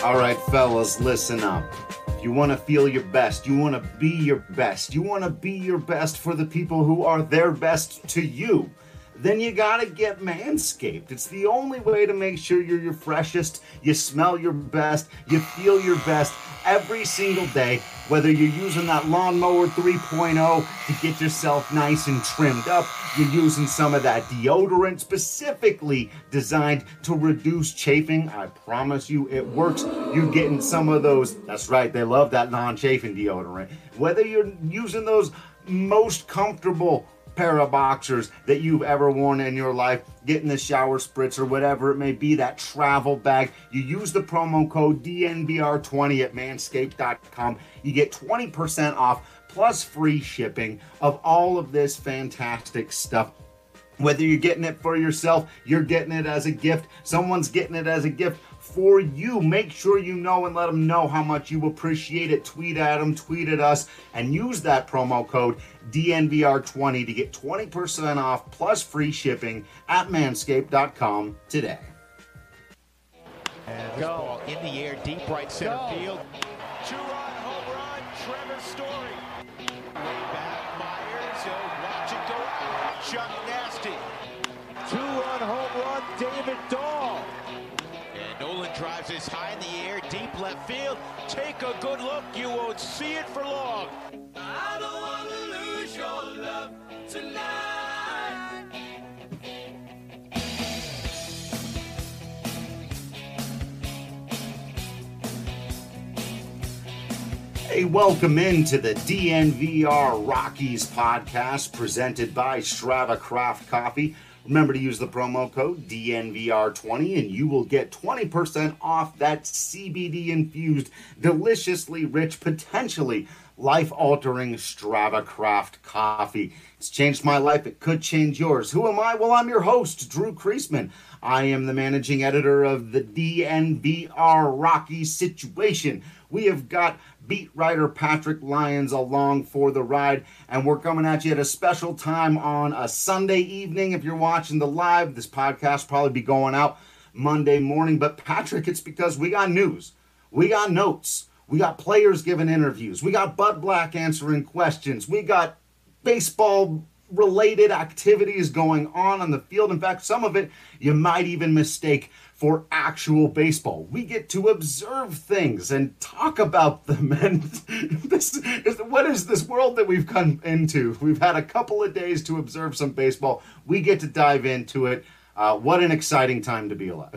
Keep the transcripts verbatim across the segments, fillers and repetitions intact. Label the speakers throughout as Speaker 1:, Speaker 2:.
Speaker 1: All right, fellas, listen up. If you want to feel your best, you want to be your best, you want to be your best for the people who are their best to you, then you gotta get Manscaped. It's the only way to make sure you're your freshest, you smell your best, you feel your best every single day, whether you're using that lawnmower three point oh to get yourself nice and trimmed up, you're using some of that deodorant specifically designed to reduce chafing. I promise you it works. You're getting some of those, that's right, they love that non-chafing deodorant. Whether you're using those most comfortable pair of boxers that you've ever worn in your life, getting the shower spritz or whatever it may be, that travel bag, you use the promo code D N V R twenty at manscaped dot com. You get twenty percent off plus free shipping of all of this fantastic stuff. Whether you're getting it for yourself, you're getting it as a gift, someone's getting it as a gift for you. Make sure you know and let them know how much you appreciate it. Tweet at them, tweet at us, and use that promo code D N V R twenty to get twenty percent off plus free shipping at manscaped dot com today.
Speaker 2: And go ball in the air, deep right center go. Field.
Speaker 3: Two-run home run, Trevor Story. Way back, Myers, he'll watch it go. Chuck Nasty.
Speaker 2: Two-run home run, David Dahl.
Speaker 3: And Nolan drives this high in the air, deep left field. Take a good look, you won't see it for long. I don't want to lose your love tonight.
Speaker 1: Hey, welcome into the D N V R Rockies podcast presented by Strava Craft Coffee. Remember to use the promo code D N V R twenty and you will get twenty percent off that C B D-infused, deliciously rich, potentially life-altering Strava Craft coffee. It's changed my life. It could change yours. Who am I? Well, I'm your host, Drew Kreisman. I am the managing editor of the D N V R Rockies Situation. We have got beat writer Patrick Lyons along for the ride, and we're coming at you at a special time on a Sunday evening. If you're watching the live, this podcast will probably be going out Monday morning. But Patrick, it's because we got news, we got notes, we got players giving interviews, we got Bud Black answering questions, we got baseball related activities going on on the field. In fact, some of it you might even mistake for actual baseball. We get to observe things and talk about them. And this is, what is this world that we've come into? We've had a couple of days to observe some baseball. We get to dive into it. Uh, what an exciting time to be alive.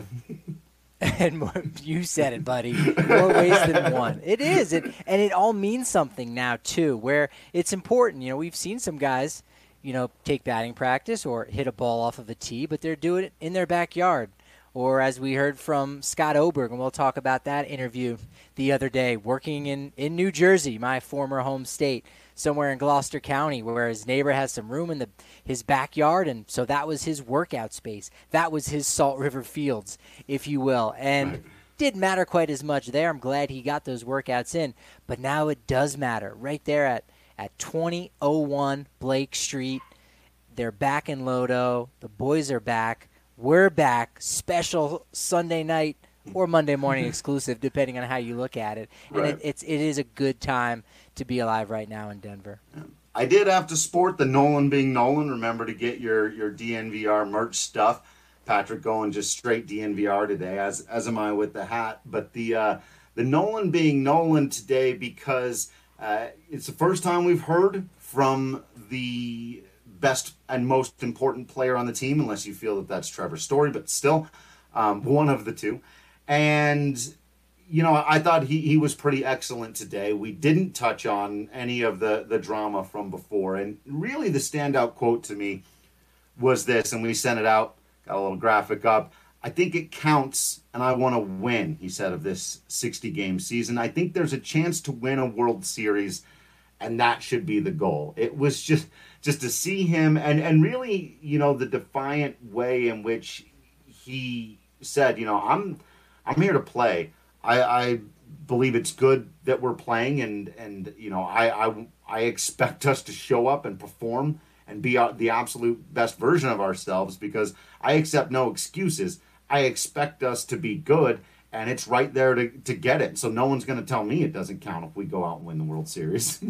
Speaker 4: And you said it, buddy. More ways than one. It is. It, and it all means something now, too, where it's important. You know, we've seen some guys, you know, take batting practice or hit a ball off of a tee, but they're doing it in their backyard. Or as we heard from Scott Oberg, and we'll talk about that interview the other day, working in, in New Jersey, my former home state, somewhere in Gloucester County, where his neighbor has some room in the his backyard, and so that was his workout space. That was his Salt River Fields, if you will. And right. Didn't matter quite as much there. I'm glad he got those workouts in. But now it does matter. Right there at, at twenty oh one Blake Street, they're back in Lodo. The boys are back. We're back, special Sunday night or Monday morning exclusive, depending on how you look at it. And right. it, it's it is a good time to be alive right now in Denver.
Speaker 1: I did have to sport the Nolan being Nolan. Remember to get your, your D N V R merch stuff. Patrick going just straight D N V R today, as as am I with the hat. But the uh, the Nolan being Nolan today because uh, it's the first time we've heard from the best and most important player on the team, unless you feel that that's Trevor Story, but still um, one of the two. And, you know, I thought he, he was pretty excellent today. We didn't touch on any of the, the drama from before. And really the standout quote to me was this, and we sent it out, got a little graphic up. I think it counts, and I want to win, he said, of this sixty-game season. I think there's a chance to win a World Series, and that should be the goal. It was just... Just to see him, and, and really, you know, the defiant way in which he said, you know, I'm I'm here to play. I, I believe it's good that we're playing, and, and you know, I, I, I expect us to show up and perform and be the absolute best version of ourselves because I accept no excuses. I expect us to be good, and it's right there to, to get it. So no one's going to tell me it doesn't count if we go out and win the World Series.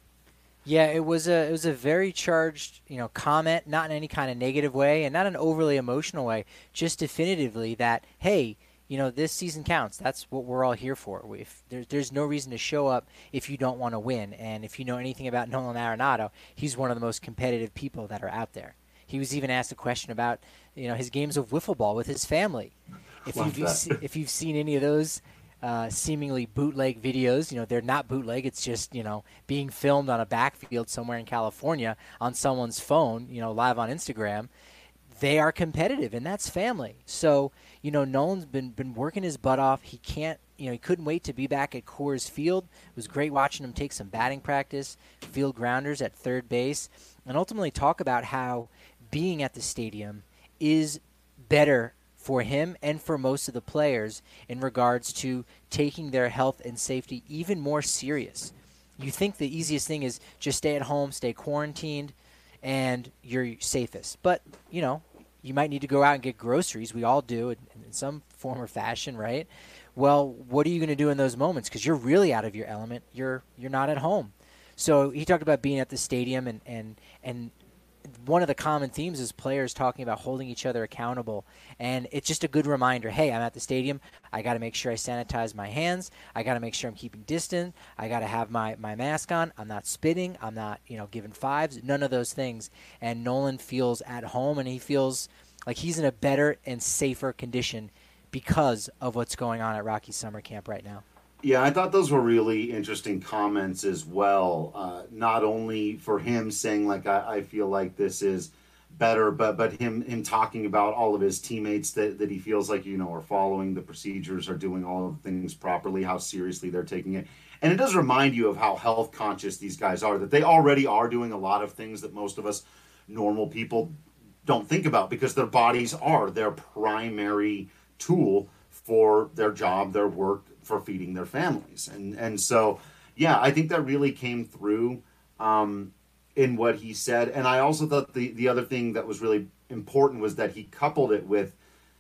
Speaker 4: Yeah, it was a it was a very charged, you know, comment, not in any kind of negative way and not an overly emotional way, just definitively that, hey, you know, this season counts. That's what we're all here for. If there's there's no reason to show up if you don't want to win. And if you know anything about Nolan Arenado, he's one of the most competitive people that are out there. He was even asked a question about, you know, his games of wiffle ball with his family. If
Speaker 1: Love
Speaker 4: you've
Speaker 1: that.
Speaker 4: se- if you've seen any of those uh, seemingly bootleg videos, you know, they're not bootleg. It's just, you know, being filmed on a backfield somewhere in California on someone's phone, you know, live on Instagram. They are competitive, and that's family. So, you know, Nolan's been been working his butt off. He can't, you know, he couldn't wait to be back at Coors Field. It was great watching him take some batting practice, field grounders at third base, and ultimately talk about how being at the stadium is better for him and for most of the players in regards to taking their health and safety even more serious. You think the easiest thing is just stay at home, stay quarantined, and you're safest. But, you know, you might need to go out and get groceries. We all do in, in some form or fashion, right? Well, what are you going to do in those moments? Because you're really out of your element. You're you're not at home. So he talked about being at the stadium, and, and, and one of the common themes is players talking about holding each other accountable. And it's just a good reminder, hey, I'm at the stadium. I got to make sure I sanitize my hands. I got to make sure I'm keeping distance. I got to have my, my mask on. I'm not spitting. I'm not, you know, giving fives. None of those things. And Nolan feels at home, and he feels like he's in a better and safer condition because of what's going on at Rocky Summer Camp right now.
Speaker 1: Yeah, I thought those were really interesting comments as well. Uh, not only for him saying like I, I feel like this is better, but but him him talking about all of his teammates that, that he feels like, you know, are following the procedures, are doing all of the things properly, how seriously they're taking it. And it does remind you of how health conscious these guys are, that they already are doing a lot of things that most of us normal people don't think about because their bodies are their primary tool for their job, their work, for feeding their families. And and so, yeah, I think that really came through um, in what he said. And I also thought the, the other thing that was really important was that he coupled it with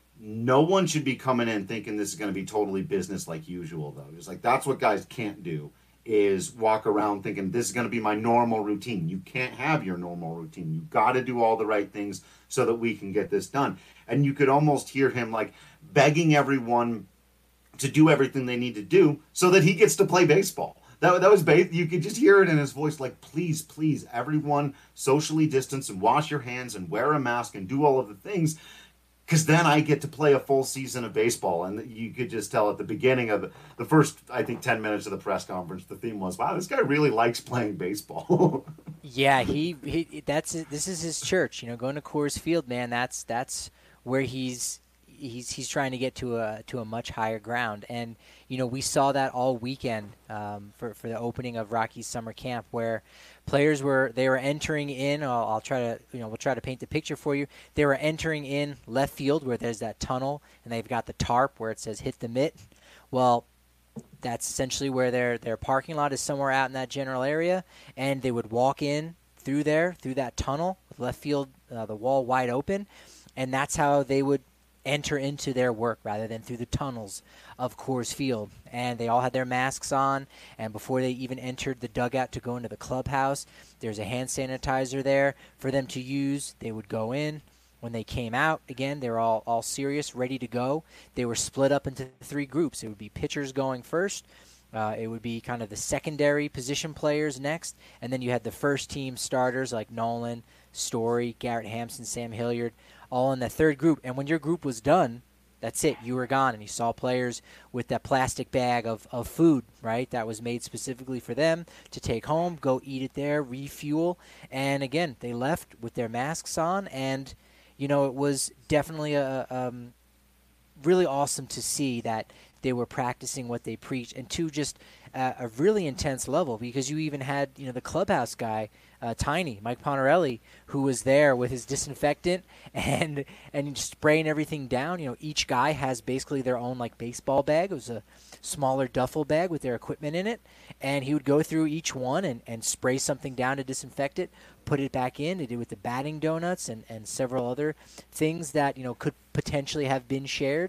Speaker 1: no one should be coming in thinking this is going to be totally business like usual, though. He was like, that's what guys can't do, is walk around thinking this is going to be my normal routine. You can't have your normal routine. You got to do all the right things so that we can get this done. And you could almost hear him like begging everyone to do everything they need to do so that he gets to play baseball. That, that was ba- you could just hear it in his voice, like, please, please, everyone socially distance and wash your hands and wear a mask and do all of the things, because then I get to play a full season of baseball. And you could just tell at the beginning of the, the first, I think, ten minutes of the press conference, the theme was, wow, this guy really likes playing baseball.
Speaker 4: Yeah, he, he that's this is his church. You know, going to Coors Field, man, that's that's where he's he's he's trying to get to a to a much higher ground. And you know, we saw that all weekend um, for for the opening of Rocky's summer camp, where players were they were entering in. I'll, I'll try to you know we'll try to paint the picture for you. They were entering in left field where there's that tunnel, and they've got the tarp where it says "hit the mitt." Well, that's essentially where their their parking lot is, somewhere out in that general area, and they would walk in through there through that tunnel with left field uh, the wall wide open, and that's how they would enter into their work rather than through the tunnels of Coors Field. And they all had their masks on, and before they even entered the dugout to go into the clubhouse, there's a hand sanitizer there for them to use. They would go in. When they came out, again, they were all, all serious, ready to go. They were split up into three groups. It would be pitchers going first. Uh, it would be kind of the secondary position players next. And then you had the first team starters like Nolan, Story, Garrett Hampson, Sam Hilliard, all in the third group. And when your group was done, that's it. You were gone. And you saw players with that plastic bag of, of food, right, that was made specifically for them to take home, go eat it there, refuel. And, again, they left with their masks on. And, you know, it was definitely a um, really awesome to see that they were practicing what they preached, and to just uh, a really intense level, because you even had, you know, the clubhouse guy, uh, Tiny, Mike Ponarelli, who was there with his disinfectant and and spraying everything down. You know, each guy has basically their own, like, baseball bag. It was a smaller duffel bag with their equipment in it, and he would go through each one and, and spray something down to disinfect it, put it back in. They did with the batting donuts and, and several other things that, you know, could potentially have been shared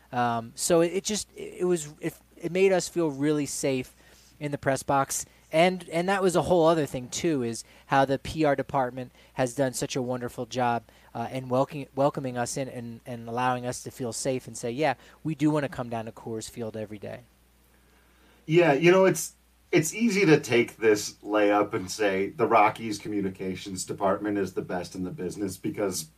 Speaker 4: Um, so it, it just it was it, it made us feel really safe in the press box. And and that was a whole other thing, too, is how the P R department has done such a wonderful job uh, in welcoming, welcoming us in and, and allowing us to feel safe and say, yeah, we do want to come down to Coors Field every day.
Speaker 1: Yeah, you know, it's it's easy to take this layup and say the Rockies communications department is the best in the business because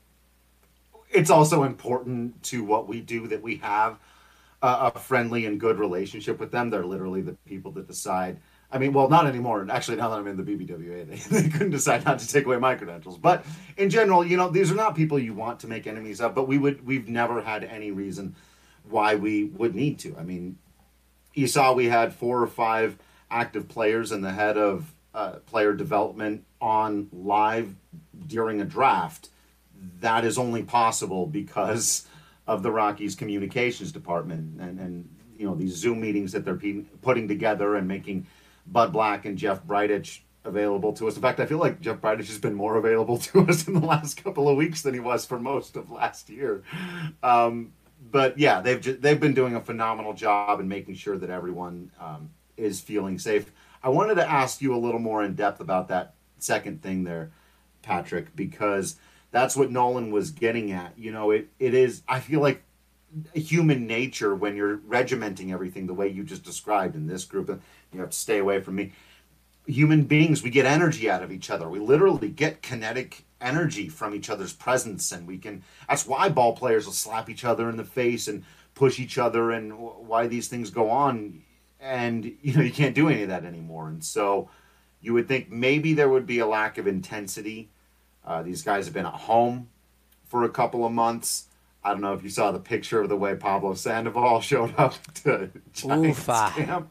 Speaker 1: it's also important to what we do that we have a, a friendly and good relationship with them. They're literally the people that decide. I mean, well, not anymore. Actually, now that I'm in the B B W A, they, they couldn't decide not to take away my credentials. But in general, you know, these are not people you want to make enemies of, but we would, we've never had any reason why we would need to. I mean, you saw we had four or five active players and the head of uh, player development on live during a draft. That is only possible because of the Rockies communications department and, and you know, these Zoom meetings that they're pe- putting together and making Bud Black and Jeff Bridich available to us. In fact, I feel like Jeff Bridich has been more available to us in the last couple of weeks than he was for most of last year. Um, but yeah, they've ju- they've been doing a phenomenal job in making sure that everyone um, is feeling safe. I wanted to ask you a little more in depth about that second thing there, Patrick, because that's what Nolan was getting at. You know, it it is, I feel like, human nature when you're regimenting everything the way you just described in this group. You have to stay away from me. Human beings, we get energy out of each other. We literally get kinetic energy from each other's presence, and we can, that's why ball players will slap each other in the face and push each other, and why these things go on. And you know, you can't do any of that anymore. And so you would think maybe there would be a lack of intensity. Uh, these guys have been at home for a couple of months. I don't know if you saw the picture of the way Pablo Sandoval showed up to Giants camp.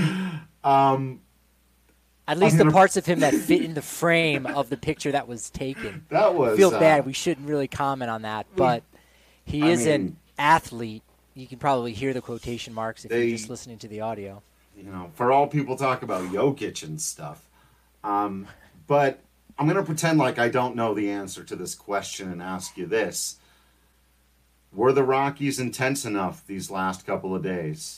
Speaker 1: Um,
Speaker 4: At least
Speaker 1: gonna...
Speaker 4: the parts of him that fit in the frame of the picture that was taken.
Speaker 1: That was.
Speaker 4: I feel
Speaker 1: uh,
Speaker 4: bad. We shouldn't really comment on that, but he
Speaker 1: I
Speaker 4: is
Speaker 1: mean,
Speaker 4: an athlete. You can probably hear the quotation marks if
Speaker 1: they,
Speaker 4: you're just listening to the audio.
Speaker 1: You know, for all people talk about Jokic and stuff. Um, but I'm going to pretend like I don't know the answer to this question and ask you this. Were the Rockies intense enough these last couple of days?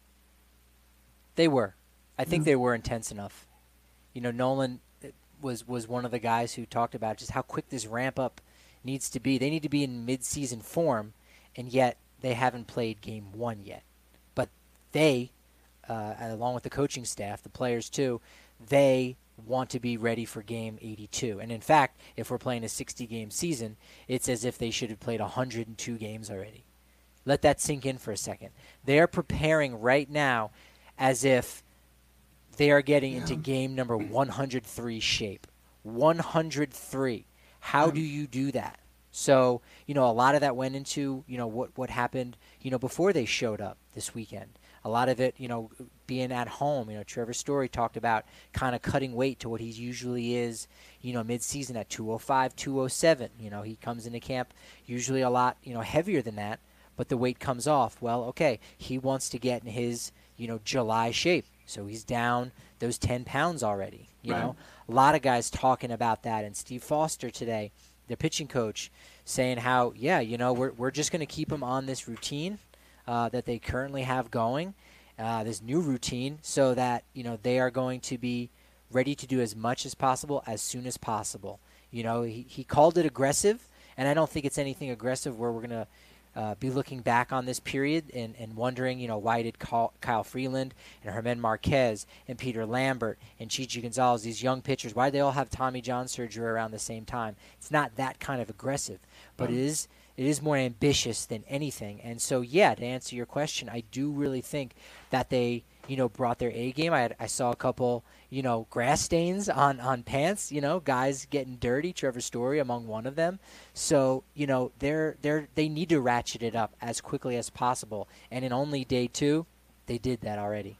Speaker 4: They were. I think yeah. they were intense enough. You know, Nolan was was one of the guys who talked about just how quick this ramp up needs to be. They need to be in mid-season form, and yet they haven't played game one yet. But they, uh, along with the coaching staff, the players too, they want to be ready for game eighty-two. And in fact, if we're playing a sixty-game season, it's as if they should have played one hundred two games already. Let that sink in for a second. They are preparing right now as if they are getting yeah. into game number one hundred three shape. one hundred three. How do you do that? So, you know, a lot of that went into, you know, what, what happened, you know, before they showed up this weekend. A lot of it, you know, being at home. You know, Trevor Story talked about kind of cutting weight to what he usually is, you know, mid-season at two oh five, two oh seven. You know, he comes into camp usually a lot, you know, heavier than that, but the weight comes off. Well, okay, he wants to get in his, you know, July shape. So he's down those ten pounds already. You right. know, a lot of guys talking about that. And Steve Foster today, the pitching coach, saying how, yeah, you know, we're we're just going to keep him on this routine uh, that they currently have going, uh, this new routine, so that, you know, they are going to be ready to do as much as possible as soon as possible. You know, he, he called it aggressive, and I don't think it's anything aggressive where we're going to Uh, be looking back on this period and, and wondering, you know, why did Kyle Freeland and Germán Marquez and Peter Lambert and Chichi Gonzalez, these young pitchers, why did they all have Tommy John surgery around the same time? It's not that kind of aggressive, but it is it is more ambitious than anything. And so, yeah, to answer your question, I do really think that they, you know, brought their A game. I had, I saw a couple, you know, grass stains on, on pants, you know, guys getting dirty, Trevor Story among one of them. So, you know, they're they're they need to ratchet it up as quickly as possible. And in only day two, they did that already.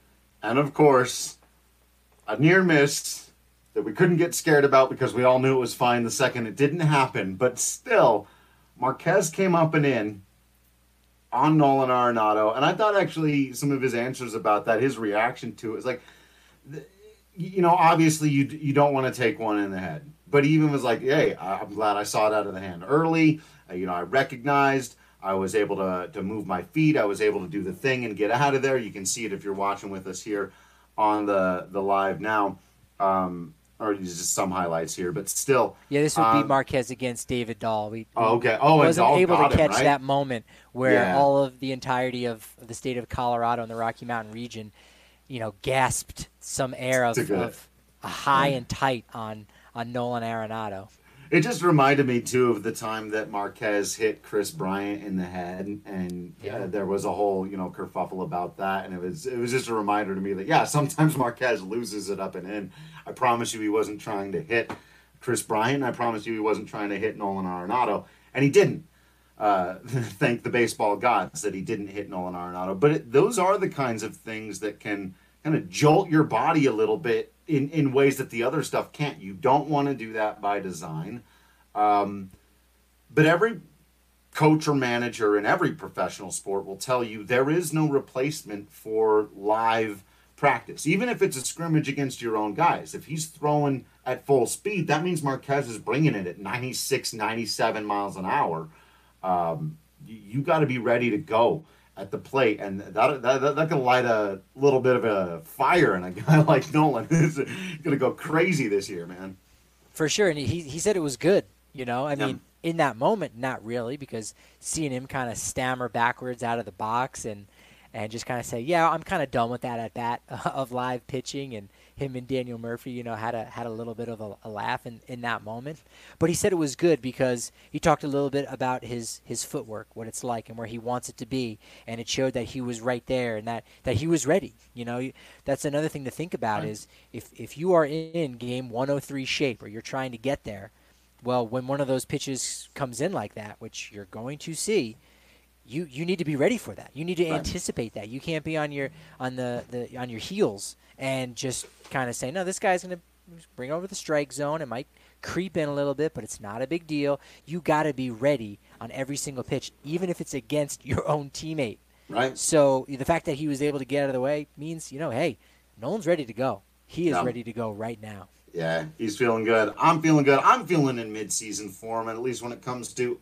Speaker 1: And of course, a near miss that we couldn't get scared about because we all knew it was fine the second it didn't happen. But still, Marquez came up and in on Nolan Arenado, and I thought actually some of his answers about that, his reaction to it, is like, you know, obviously you you don't want to take one in the head, but he even was like, hey, I'm glad I saw it out of the hand early. Uh, you know, I recognized, I was able to, to move my feet. I was able to do the thing and get out of there. You can see it if you're watching with us here on the, the live now. Um, or just some highlights here, but still.
Speaker 4: Yeah, this would
Speaker 1: um,
Speaker 4: be Marquez against David Dahl. We,
Speaker 1: oh, okay. Oh,
Speaker 4: wasn't
Speaker 1: and Dahl
Speaker 4: able
Speaker 1: got
Speaker 4: to
Speaker 1: him,
Speaker 4: catch
Speaker 1: right?
Speaker 4: that moment where
Speaker 1: Yeah.
Speaker 4: all of the entirety of the state of Colorado and the Rocky Mountain region, you know, gasped some air of, of a high and tight on, on Nolan Arenado.
Speaker 1: It just reminded me, too, of the time that Marquez hit Chris Bryant in the head, and
Speaker 4: Yeah.
Speaker 1: uh, there was a whole, you know, kerfuffle about that, and it was it was just a reminder to me that, yeah, sometimes Marquez loses it up and in. I promise you he wasn't trying to hit Chris Bryant. I promise you he wasn't trying to hit Nolan Arenado, and he didn't. Uh, thank the baseball gods that he didn't hit Nolan Arenado. But it, those are the kinds of things that can kind of jolt your body a little bit in, in ways that the other stuff can't. You don't want to do that by design. Um, but every coach or manager in every professional sport will tell you there is no replacement for live practice. Even if it's a scrimmage against your own guys. If he's throwing at full speed, that means Marquez is bringing it at ninety-six, ninety-seven miles an hour. Um, you, you got to be ready to go at the plate, and that, that, that, that can light a little bit of a fire in a guy like Nolan. He's going to go crazy this year, man.
Speaker 4: For sure, and he he said it was good, you know. I
Speaker 1: Yeah.
Speaker 4: mean, in that moment, not really, because seeing him kind of stammer backwards out of the box and and just kind of say, yeah, I'm kind of done with that at bat of live pitching, and him and Daniel Murphy, you know, had a had a little bit of a, a laugh in, in that moment. But he said it was good because he talked a little bit about his, his footwork, what it's like and where he wants it to be, and it showed that he was right there and that, that he was ready. You know, that's another thing to think about
Speaker 1: Right.
Speaker 4: is if, if you are in game one oh three shape or you're trying to get there, well, when one of those pitches comes in like that, which you're going to see, you you need to be ready for that. You need to
Speaker 1: Right.
Speaker 4: anticipate that. You can't be on your on the, the on your heels and just kind of say, no, this guy's going to bring over the strike zone. It might creep in a little bit, but it's not a big deal. You got to be ready on every single pitch, even if it's against your own teammate.
Speaker 1: Right?
Speaker 4: So the fact that he was able to get out of the way means, you know, hey, Nolan's ready to go. He is
Speaker 1: Yeah.
Speaker 4: ready to go right now.
Speaker 1: Yeah, he's feeling good. I'm feeling good. I'm feeling in mid-season form, at least when it comes to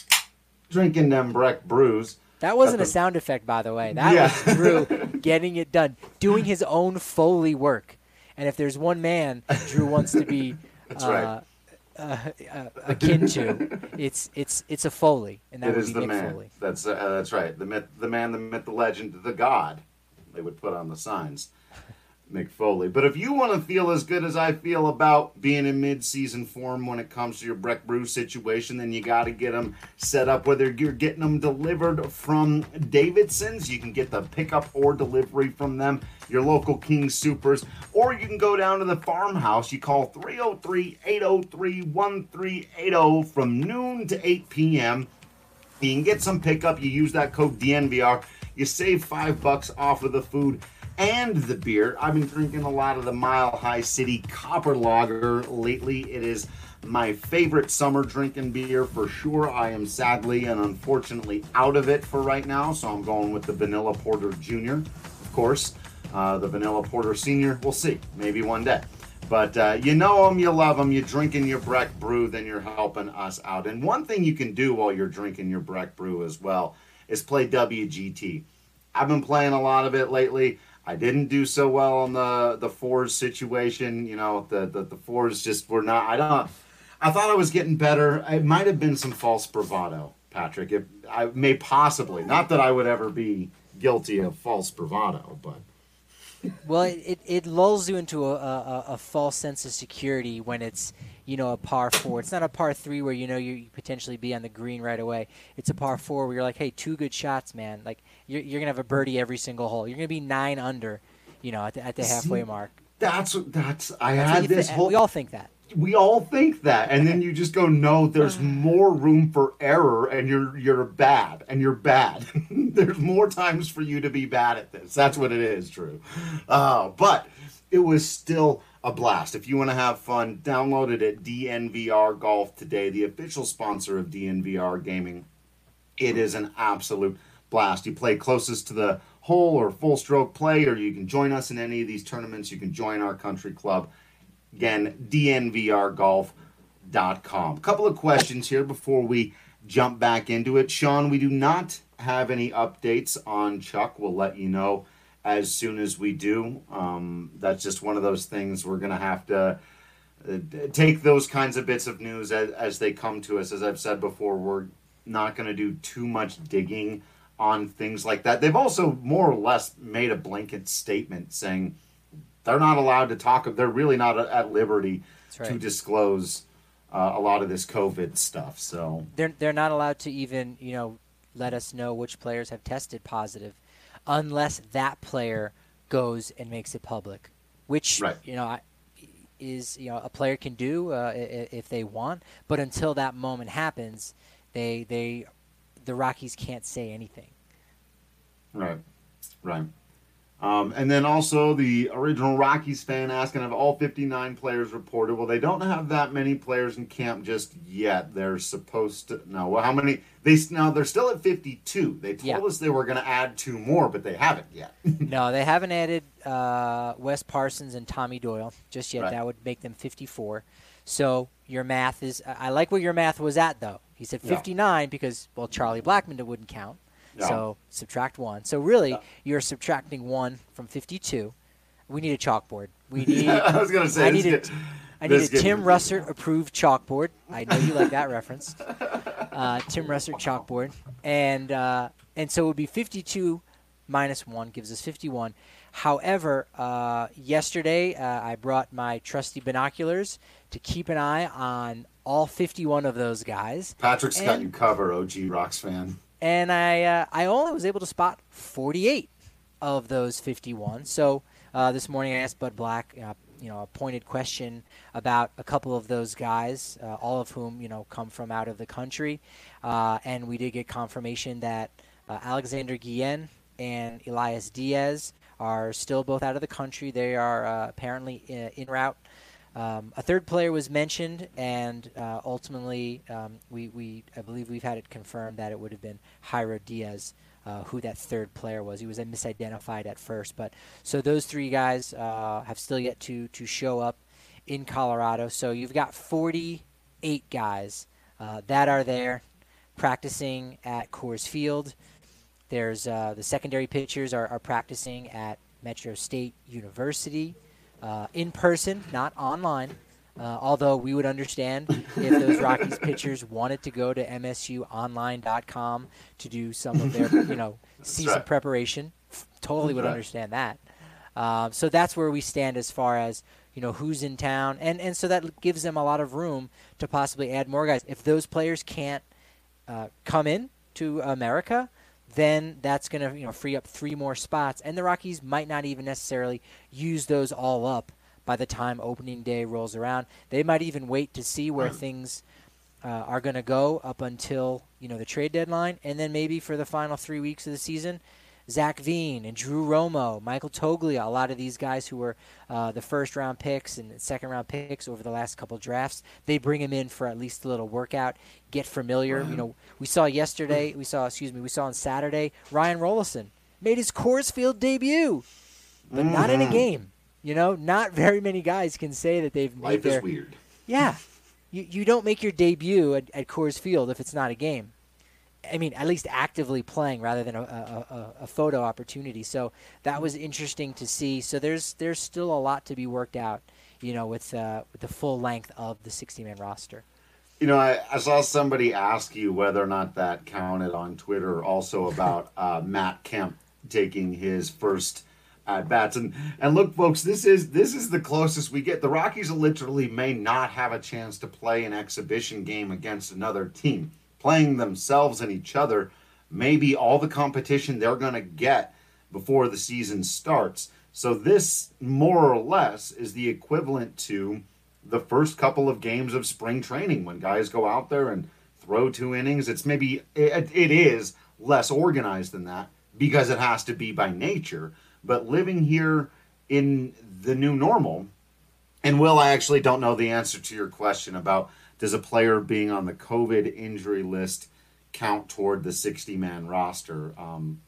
Speaker 1: drinking them Breck brews.
Speaker 4: That wasn't
Speaker 1: At
Speaker 4: a
Speaker 1: the-
Speaker 4: sound effect, by the way. That
Speaker 1: Yeah.
Speaker 4: was Drew getting it done, doing his own Foley work. And if there's one man Drew wants to be
Speaker 1: That's
Speaker 4: uh,
Speaker 1: right.
Speaker 4: uh, uh, akin to, it's it's it's a Foley, and that
Speaker 1: It
Speaker 4: would
Speaker 1: is
Speaker 4: be
Speaker 1: the
Speaker 4: Mick
Speaker 1: man.
Speaker 4: Foley.
Speaker 1: That's uh, that's right. The myth, the man, the myth, the legend, the god. They would put on the signs. Mick Foley. But if you want to feel as good as I feel about being in mid-season form when it comes to your Breck Brew situation, then you got to get them set up, whether you're getting them delivered from Davidson's. You can get the pickup or delivery from them, your local King Supers, or you can go down to the farmhouse. You call three oh three, eight oh three, one three eight oh from noon to eight p.m. You can get some pickup. You use that code D N V R. You save five bucks off of the food and the beer. I've been drinking a lot of the Mile High City Copper Lager lately. It is my favorite summer drinking beer for sure. I am sadly and unfortunately out of it for right now, so I'm going with the Vanilla Porter Junior, of course. Uh, the Vanilla Porter Senior, we'll see. Maybe one day. But uh, you know them, you love them, you're drinking your Breck Brew, then you're helping us out. And one thing you can do while you're drinking your Breck Brew as well is play W G T. I've been playing a lot of it lately. I didn't do so well on the the fours situation. You know, the, the, the fours just were not, I don't, I thought I was getting better. It might have been some false bravado, Patrick. It, I may possibly, not that I would ever be guilty of false bravado, but.
Speaker 4: Well, it, it, it lulls you into a, a, a false sense of security when it's, you know, a par four. It's not a par three where, you know, you, you potentially be on the green right away. It's a par four where you're like, hey, two good shots, man. Like, you're, you're going to have a birdie every single hole. You're going to be nine under, you know, at the, at the halfway
Speaker 1: See,
Speaker 4: mark.
Speaker 1: That's, that's, I
Speaker 4: That's what
Speaker 1: had
Speaker 4: you
Speaker 1: this
Speaker 4: thi-
Speaker 1: whole.
Speaker 4: We all think that.
Speaker 1: we all think that, and then you just go, no, there's more room for error, and you're you're bad, and you're bad. There's more times for you to be bad at this. That's what it is, Drew. Uh, but it was still a blast. If you want to have fun, download it at D N V R Golf today, the official sponsor of D N V R Gaming. It is an absolute blast. You play closest to the hole or full stroke play, or you can join us in any of these tournaments. You can join our country club. Again, D N V R golf dot com. A couple of questions here before we jump back into it. Sean, we do not have any updates on Chuck. We'll let you know as soon as we do. Um, that's just one of those things we're going to have to uh, take those kinds of bits of news as, as they come to us. As I've said before, we're not going to do too much digging on things like that. They've also more or less made a blanket statement saying they're not allowed to talk. They're really not at liberty right. to disclose uh, a lot of this COVID stuff. So
Speaker 4: they're they're not allowed to even, you know, let us know which players have tested positive, unless that player goes and makes it public, which right. you know is you know a player can do uh, if they want. But until that moment happens, they they the Rockies can't say anything.
Speaker 1: Right, right. Um, and then also the original Rockies fan asking, have all fifty-nine players reported? Well, they don't have that many players in camp just yet. They're supposed to no. Well, how many? They now they're still at fifty-two. They told yeah. us they were going to add two more, but they haven't yet.
Speaker 4: No, they haven't added uh, Wes Parsons and Tommy Doyle just yet. Right. That would make them fifty-four. So your math is. I like where your math was at, though. He said fifty-nine yeah. because well, Charlie Blackmon wouldn't count. No. So subtract one. So really, no. you're subtracting one from fifty-two. We need a chalkboard. We need.
Speaker 1: I was going to say.
Speaker 4: I need a, I need a Tim Russert approved chalkboard. I know you like that reference. Uh, Tim Russert chalkboard, and uh, and so it would be fifty-two minus one gives us fifty-one. However, uh, yesterday uh, I brought my trusty binoculars to keep an eye on all fifty-one of those guys.
Speaker 1: Patrick's and, got you covered, O G Rocks fan.
Speaker 4: And I uh, I only was able to spot forty-eight of those fifty-one. So uh, this morning I asked Bud Black, uh, you know, a pointed question about a couple of those guys, uh, all of whom, you know, come from out of the country. Uh, and we did get confirmation that uh, Alexander Guillen and Elias Diaz are still both out of the country. They are uh, apparently in, in route. Um, a third player was mentioned, and uh, ultimately, um, we, we I believe we've had it confirmed that it would have been Jairo Diaz, uh, who that third player was. He was misidentified at first, but so those three guys uh, have still yet to to show up in Colorado. So you've got forty-eight guys uh, that are there practicing at Coors Field. There's uh, the secondary pitchers are, are practicing at Metro State University. Uh, in person, not online, uh, although we would understand if those Rockies pitchers wanted to go to M S U online dot com to do some of their, you know, season right. preparation. Totally would right. understand that. Uh, so that's where we stand as far as, you know, who's in town. And, and so that gives them a lot of room to possibly add more guys. If those players can't uh, come in to America, then that's going to, you know, free up three more spots. And the Rockies might not even necessarily use those all up by the time opening day rolls around. They might even wait to see where things uh, are going to go up until, you know, the trade deadline. And then maybe for the final three weeks of the season, Zach Veen and Drew Romo, Michael Toglia, a lot of these guys who were uh, the first-round picks and second-round picks over the last couple drafts, they bring them in for at least a little workout, get familiar. You know, we saw yesterday, we saw, excuse me, we saw on Saturday, Ryan Rollison made his Coors Field debut, but mm-hmm. not in a game. You know, not very many guys can say that they've made
Speaker 1: Life
Speaker 4: their...
Speaker 1: is weird.
Speaker 4: Yeah. You, you don't make your debut at, at Coors Field if it's not a game. I mean, at least actively playing rather than a, a, a photo opportunity. So that was interesting to see. So there's there's still a lot to be worked out, you know, with, uh, with the full length of the sixty-man roster.
Speaker 1: You know, I, I saw somebody ask you whether or not that counted on Twitter also about uh, Matt Kemp taking his first at bats. And and look, folks, this is this is the closest we get. The Rockies literally may not have a chance to play an exhibition game against another team. Playing themselves and each other may be all the competition they're going to get before the season starts. So this, more or less, is the equivalent to the first couple of games of spring training when guys go out there and throw two innings. It's maybe, it, it is less organized than that because it has to be by nature. But living here in the new normal, and Will, I actually don't know the answer to your question about does a player being on the COVID injury list count toward the sixty-man roster? Um,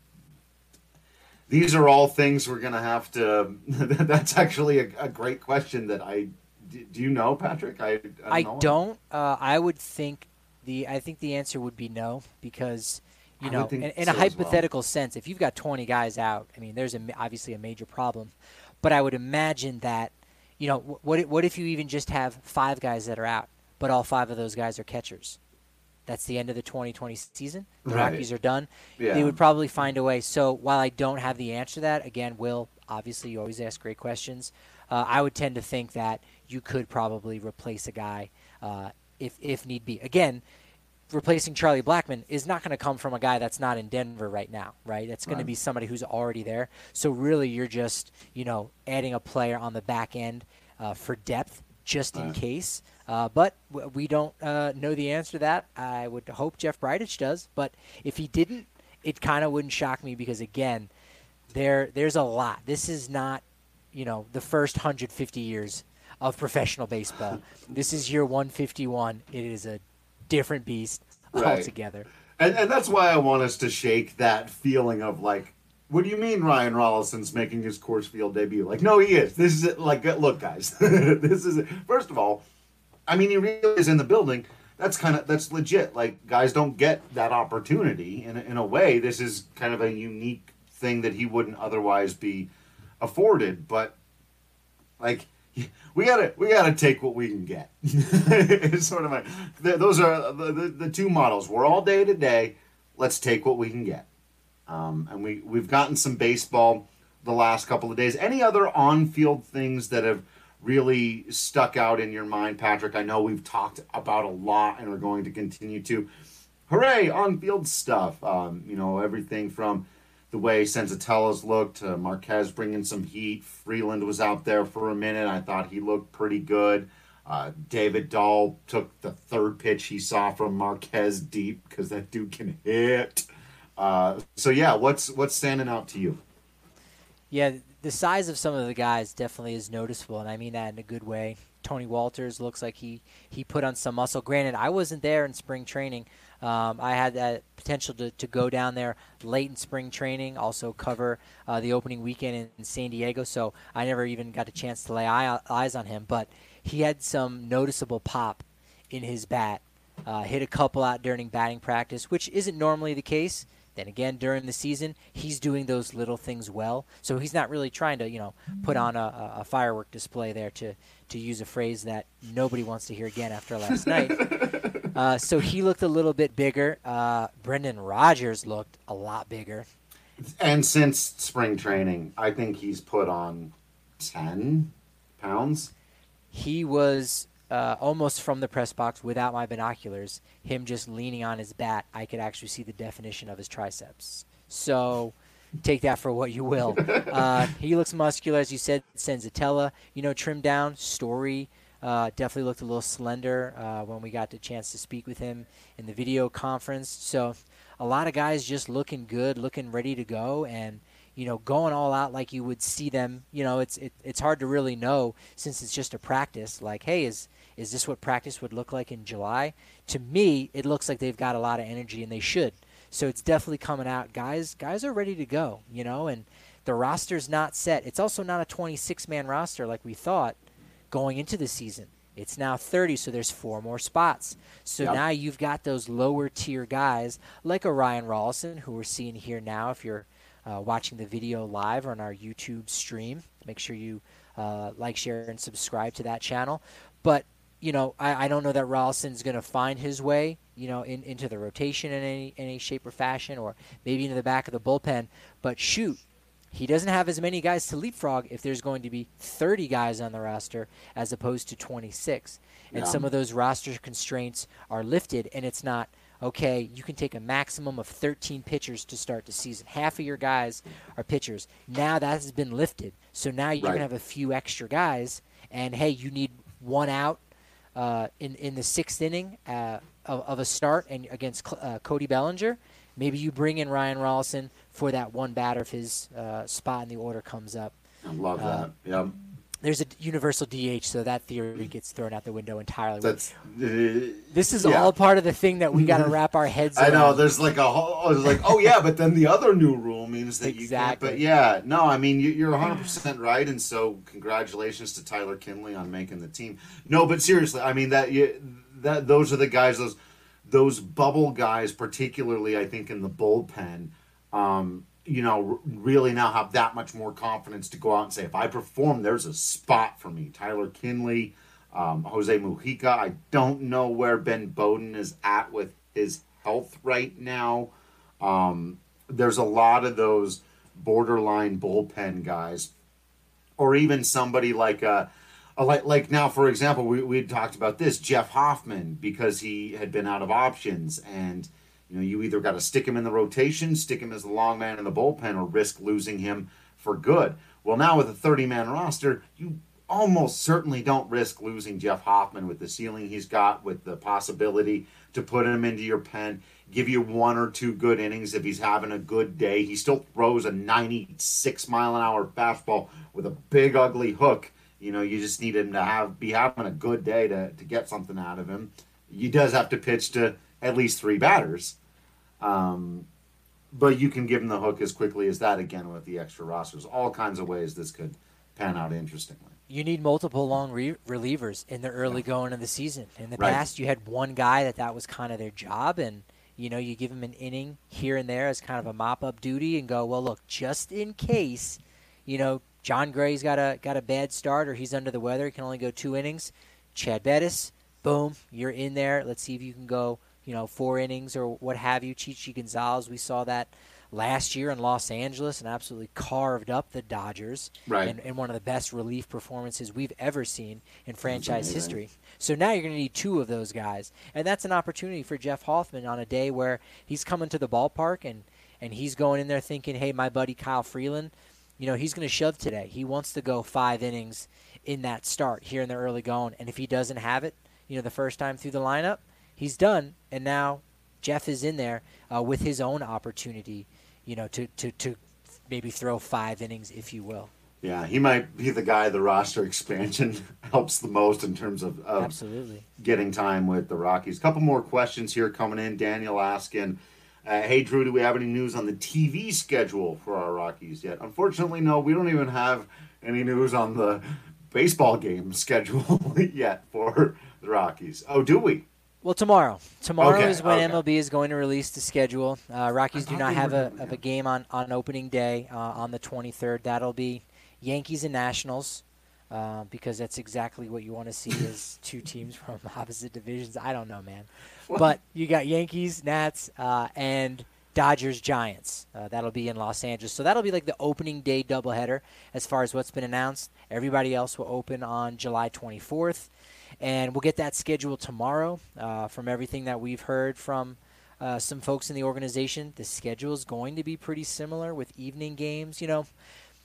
Speaker 1: these are all things we're going to have to... That's actually a, a great question that I... Do you know, Patrick? I, I don't
Speaker 4: I
Speaker 1: know.
Speaker 4: don't. Uh, I would think The I think the answer would be no, because you
Speaker 1: I
Speaker 4: know,
Speaker 1: would think
Speaker 4: in, in
Speaker 1: so
Speaker 4: a
Speaker 1: as well.
Speaker 4: hypothetical sense, if you've got twenty guys out, I mean, there's a, obviously a major problem. But I would imagine that, you know, wh- what if- what if you even just have five guys that are out, but all five of those guys are catchers? That's the end of the twenty twenty season. The
Speaker 1: Right.
Speaker 4: Rockies are done.
Speaker 1: Yeah.
Speaker 4: They would probably find a way. So while I don't have the answer to that, again, Will, obviously you always ask great questions. Uh, I would tend to think that you could probably replace a guy uh, if if need be. Again, replacing Charlie Blackmon is not going to come from a guy that's not in Denver right now, right? It's going
Speaker 1: Right.
Speaker 4: to be somebody who's already there. So really you're just, you know, adding a player on the back end uh, for depth just in
Speaker 1: Right.
Speaker 4: case. Uh, but w- we don't uh, know the answer to that. I would hope Jeff Bridich does. But if he didn't, it kind of wouldn't shock me because, again, there there's a lot. This is not, you know, the first one hundred fifty years of professional baseball. This is year one fifty-one. It is a different beast
Speaker 1: Right.
Speaker 4: altogether.
Speaker 1: And, and that's why I want us to shake that feeling of like, what do you mean Ryan Rollison's making his Coors Field debut? Like, no, he is. This is it. Like, look, guys, this is it. First of all, I mean, he really is in the building. That's kind of, that's legit. Like, guys don't get that opportunity. In, a- in a way, this is kind of a unique thing that he wouldn't otherwise be afforded. But, like, we gotta we gotta take what we can get. It's sort of like th- those are the, the the two models. We're all day to day. Let's take what we can get. Um, and we we've gotten some baseball the last couple of days. Any other on-field things that have really stuck out in your mind, Patrick? I know we've talked about a lot and are going to continue to. Hooray, on-field stuff. Um, you know, everything from the way Senzatella's looked, uh, Marquez bringing some heat. Freeland was out there for a minute. I thought he looked pretty good. Uh, David Dahl took the third pitch he saw from Marquez deep because that dude can hit. Uh, so yeah, what's what's standing out to you?
Speaker 4: Yeah, the size of some of the guys definitely is noticeable, and I mean that in a good way. Tony Walters looks like he, he put on some muscle. Granted, I wasn't there in spring training. Um, I had that potential to, to go down there late in spring training, also cover uh, the opening weekend in, in San Diego, so I never even got a chance to lay eye, eyes on him. But he had some noticeable pop in his bat. Uh, hit a couple out during batting practice, which isn't normally the case. Then again, during the season, he's doing those little things well. So he's not really trying to, you know, put on a, a firework display there, to, to use a phrase that nobody wants to hear again after last night. Uh, so he looked a little bit bigger. Uh, Brendan Rodgers looked a lot bigger.
Speaker 1: And since spring training, I think he's put on ten pounds.
Speaker 4: He was uh, almost from the press box without my binoculars. Him just leaning on his bat, I could actually see the definition of his triceps. So take that for what you will. Uh, he looks muscular, as you said. Senzatella, you know, trimmed down. Story uh, definitely looked a little slender uh, when we got the chance to speak with him in the video conference. So a lot of guys just looking good, looking ready to go, and you know, going all out like you would see them. You know, it's it, it's hard to really know since it's just a practice. Like, hey, is is this what practice would look like in July? To me, it looks like they've got a lot of energy, and they should. So it's definitely coming out. Guys, guys are ready to go, you know, and the roster's not set. It's also not a twenty-six man roster like we thought going into the season. It's now thirty, so there's four more spots. So
Speaker 1: Yep.
Speaker 4: now you've got those lower tier guys like a Ryan Rollison, who we're seeing here now. If you're uh, watching the video live or on our YouTube stream, make sure you uh, like, share, and subscribe to that channel. But you know, I, I don't know that Rollison's going to find his way, you know, in, into the rotation in any any shape or fashion, or maybe into the back of the bullpen. But shoot, he doesn't have as many guys to leapfrog if there's going to be thirty guys on the roster as opposed to twenty-six. And
Speaker 1: Yeah.
Speaker 4: some of those roster constraints are lifted, and it's not, okay, you can take a maximum of thirteen pitchers to start the season. Half of your guys are pitchers. Now that has been lifted. So now you're
Speaker 1: Right.
Speaker 4: going to have a few extra guys, and, hey, you need one out uh, in, in the sixth inning uh, of, of a start and against uh, Cody Bellinger. Maybe you bring in Ryan Rollison for that one batter if his uh, spot in the order comes up.
Speaker 1: I love
Speaker 4: Uh,
Speaker 1: that. Yeah,
Speaker 4: There's a universal D H, so that theory gets thrown out the window entirely.
Speaker 1: that's. Uh,
Speaker 4: This is
Speaker 1: yeah.
Speaker 4: all part of the thing that we got to wrap our heads
Speaker 1: I
Speaker 4: around.
Speaker 1: know. There's like a whole. There's like, oh yeah, but then the other new rule means that you can't.
Speaker 4: Exactly.
Speaker 1: But yeah, no, I mean you, you're one hundred percent right, and so congratulations to Tyler Kinley on making the team. No, but seriously, I mean that you, that those are the guys. Those those bubble guys, particularly I think in the bullpen, um, you know, r- really now have that much more confidence to go out and say, if I perform, there's a spot for me. Tyler Kinley, um, Jose Mujica. I don't know where Ben Bowden is at with his health right now. Um, there's a lot of those borderline bullpen guys, or even somebody like a, a like like now, for example, we we talked about this Jeff Hoffman, because he had been out of options, and you know you either got to stick him in the rotation, stick him as the long man in the bullpen, or risk losing him for good. Well, now with a thirty-man roster, you almost certainly don't risk losing Jeff Hoffman with the ceiling he's got, with the possibility to put him into your pen, give you one or two good innings if he's having a good day. He still throws a ninety-six mile an hour fastball with a big ugly hook. You know, you just need him to have be having a good day to, to get something out of him. He does have to pitch to at least three batters. Um, but you can give him the hook as quickly as that again with the extra rosters. All kinds of ways this could pan out interestingly.
Speaker 4: You need multiple long re- relievers in the early yeah. going of the season. In the
Speaker 1: right.
Speaker 4: past, you had one guy that that was kind of their job, and you know you give him an inning here and there as kind of a mop-up duty, and go, well, look, just in case, you know, John Gray's got a got a bad start or he's under the weather, he can only go two innings. Chad Bettis, boom, you're in there. Let's see if you can go, you know, four innings or what have you. Chichi Gonzalez, we saw that last year in Los Angeles and absolutely carved up the Dodgers.
Speaker 1: Right.
Speaker 4: And, and one of the best relief performances we've ever seen in franchise history. So now you're going to need two of those guys. And that's an opportunity for Jeff Hoffman on a day where he's coming to the ballpark and, and he's going in there thinking, hey, my buddy Kyle Freeland, you know, he's going to shove today. He wants to go five innings in that start here in the early going. And if he doesn't have it, you know, the first time through the lineup, he's done. And now Jeff is in there uh, with his own opportunity, you know, to, to, to maybe throw five innings, if you will.
Speaker 1: Yeah, he might be the guy the roster expansion helps the most in terms of, of
Speaker 4: Absolutely.
Speaker 1: getting time with the Rockies. A couple more questions here coming in. Daniel asking, uh, hey, Drew, do we have any news on the T V schedule for our Rockies yet? Unfortunately, no. We don't even have any news on the baseball game schedule yet for the Rockies. Oh, do we?
Speaker 4: Well, tomorrow. Tomorrow
Speaker 1: okay,
Speaker 4: is when
Speaker 1: okay.
Speaker 4: M L B is going to release the schedule. Uh, Rockies do not have a,
Speaker 1: doing,
Speaker 4: of
Speaker 1: yeah.
Speaker 4: a game on, on opening day uh, on the twenty-third. That'll be Yankees and Nationals uh, because that's exactly what you want to see is two teams from opposite divisions. I don't know, man. What? But you got Yankees, Nats, uh, and Dodgers, Giants. Uh, that'll be in Los Angeles. So that'll be like the opening day doubleheader as far as what's been announced. Everybody else will open on July twenty-fourth. And we'll get that schedule tomorrow. Uh, from everything that we've heard from uh, some folks in the organization, the schedule is going to be pretty similar with evening games. You know,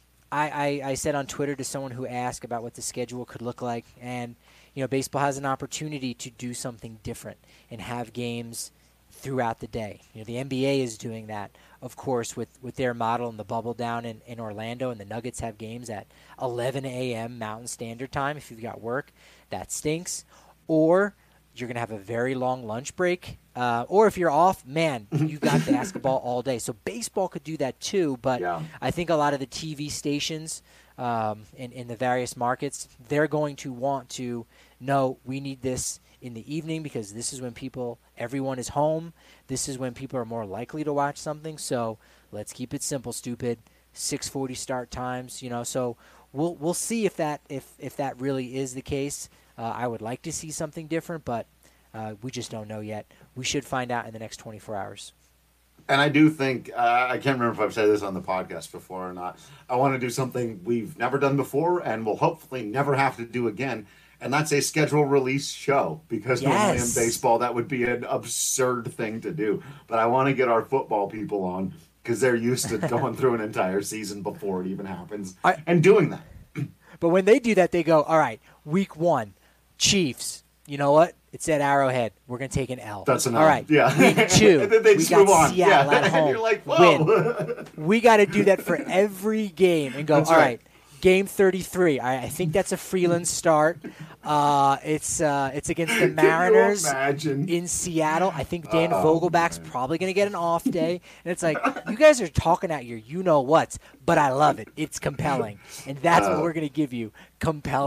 Speaker 4: I, I, I said on Twitter to someone who asked about what the schedule could look like, and, you know, baseball has an opportunity to do something different and have games throughout the day. You know, the N B A is doing that, of course, with, with their model and the bubble down in, in Orlando, and the Nuggets have games at eleven a.m. Mountain Standard Time if you've got work. That stinks. Or you're going to have a very long lunch break. Uh, or if you're off, man, you got basketball all day. So baseball could do that too, but
Speaker 1: yeah.
Speaker 4: I think a lot of the T V stations um, in, in the various markets, they're going to want to know we need this in the evening because this is when people, everyone is home. This is when people are more likely to watch something. So let's keep it simple, stupid. six forty start times, you know. So we'll we'll see if that if if that really is the case. Uh, I would like to see something different, but uh, we just don't know yet. We should find out in the next twenty-four hours.
Speaker 1: And I do think, uh, I can't remember if I've said this on the podcast before or not, I want to do something we've never done before and will hopefully never have to do again, and that's a schedule release show, because
Speaker 4: Yes.
Speaker 1: normally in baseball that would be an absurd thing to do. But I want to get our football people on, because they're used to going through an entire season before it even happens,
Speaker 4: I-
Speaker 1: and doing that.
Speaker 4: But when they do that, they go, all right, week one, Chiefs. You know what? It's at Arrowhead. We're going to take an L.
Speaker 1: That's an
Speaker 4: All
Speaker 1: L.
Speaker 4: right.
Speaker 1: Yeah.
Speaker 4: Week two,
Speaker 1: And then they
Speaker 4: we
Speaker 1: just
Speaker 4: got
Speaker 1: move on.
Speaker 4: Seattle
Speaker 1: Yeah.
Speaker 4: at home.
Speaker 1: And you're like, whoa.
Speaker 4: Win. We got to do that for every game and go,
Speaker 1: That's
Speaker 4: all
Speaker 1: right.
Speaker 4: right, game thirty-three. I, I think that's a Freeland start. Uh, it's uh, it's against the Mariners
Speaker 1: Can you imagine?
Speaker 4: in Seattle. I think Dan
Speaker 1: Oh,
Speaker 4: Vogelback's
Speaker 1: man.
Speaker 4: probably going to get an off day. And it's like, you guys are talking out your you-know-whats, but I love it. It's compelling. And that's what
Speaker 1: Uh.
Speaker 4: we're going to give you, compelling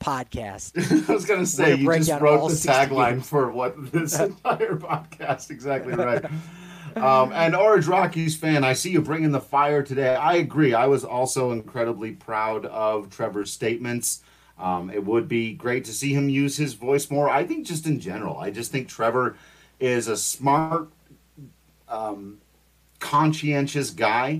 Speaker 4: podcast.
Speaker 1: I was going to say, you
Speaker 4: break
Speaker 1: just
Speaker 4: down
Speaker 1: wrote
Speaker 4: all
Speaker 1: the
Speaker 4: sixty
Speaker 1: tagline
Speaker 4: games.
Speaker 1: for what this entire podcast. Exactly right. Um, and Orange Rockies fan, I see you bringing the fire today. I agree. I was also incredibly proud of Trevor's statements. Um, it would be great to see him use his voice more. I think just in general, I just think Trevor is a smart, um, conscientious guy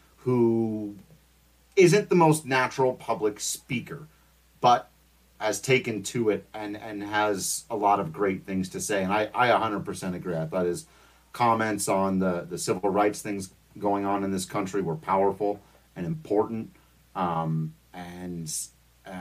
Speaker 1: who isn't the most natural public speaker, but has taken to it and, and has a lot of great things to say. And I, I one hundred percent agree. I thought his comments on the, the civil rights things going on in this country were powerful and important. Um, and uh,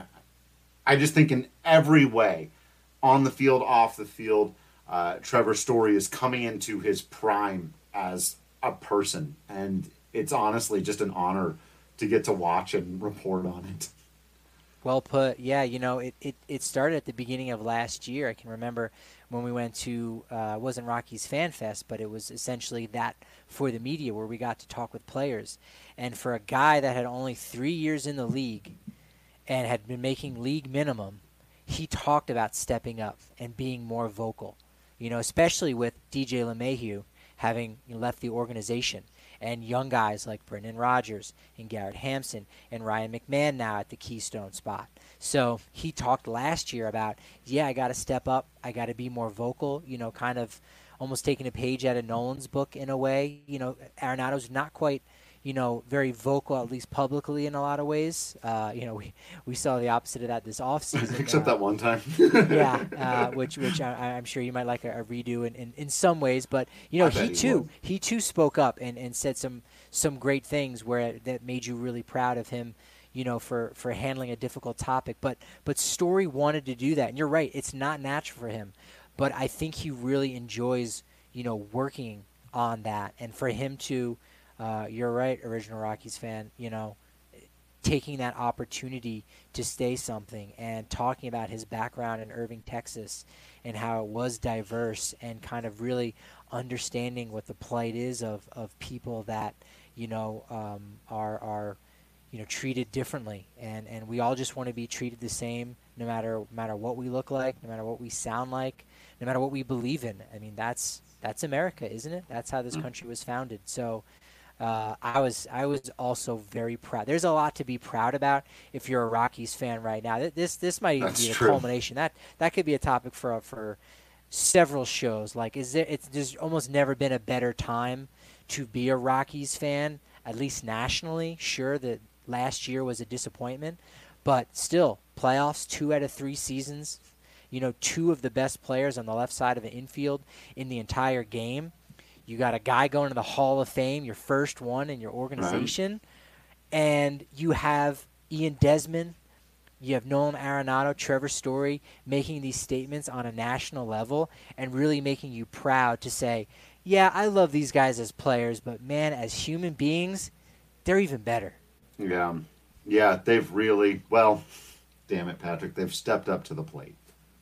Speaker 1: I just think in every way, on the field, off the field, uh, Trevor Story is coming into his prime as a person. And it's honestly just an honor to get to watch and report on it.
Speaker 4: Well put. Yeah, you know, it, it, it started at the beginning of last year. I can remember when we went to, uh, it wasn't Rockies Fan Fest, but it was essentially that for the media where we got to talk with players. And for a guy that had only three years in the league and had been making league minimum, he talked about stepping up and being more vocal, you know, especially with D J LeMahieu having left the organization. And young guys like Brendan Rodgers and Garrett Hampson and Ryan McMahon now at the Keystone spot. So he talked last year about, yeah, I got to step up. I got to be more vocal, you know, kind of almost taking a page out of Nolan's book in a way. You know, Arenado's not quite, you know, very vocal, at least publicly in a lot of ways. Uh, you know, we, we saw the opposite of that this offseason.
Speaker 1: Except
Speaker 4: uh,
Speaker 1: that one time.
Speaker 4: yeah, uh, which which I, I'm sure you might like a, a redo in, in, in some ways. But, you know,
Speaker 1: I
Speaker 4: he
Speaker 1: bet he
Speaker 4: too,
Speaker 1: would.
Speaker 4: he too spoke up and, and said some some great things where that made you really proud of him, you know, for, for handling a difficult topic. But but Story wanted to do that. And you're right, it's not natural for him. But I think he really enjoys, you know, working on that. And for him to, uh, you're right, Original Rockies fan, you know, taking that opportunity to say something and talking about his background in Irving, Texas, and how it was diverse and kind of really understanding what the plight is of, of people that, you know, um, are, are, you know, treated differently. And, and we all just want to be treated the same no matter, no matter what we look like, no matter what we sound like, no matter what we believe in. I mean, that's, that's America, isn't it? That's how this country was founded. So, Uh, I was I was also very proud. There's a lot to be proud about if you're a Rockies fan right now. This this might even
Speaker 1: That's
Speaker 4: be the
Speaker 1: true.
Speaker 4: culmination. That that could be a topic for for several shows. Like, is there? It's there's almost never been a better time to be a Rockies fan, at least nationally. Sure, that last year was a disappointment, but still, playoffs, two out of three seasons. You know, two of the best players on the left side of the infield in the entire game. You got a guy going to the Hall of Fame, your first one in your organization, right. And you have Ian Desmond, you have Nolan Arenado, Trevor Story making these statements on a national level and really making you proud to say, yeah, I love these guys as players, but man, as human beings, they're even better.
Speaker 1: Yeah. Yeah, they've really, well, damn it, Patrick, they've stepped up to the plate.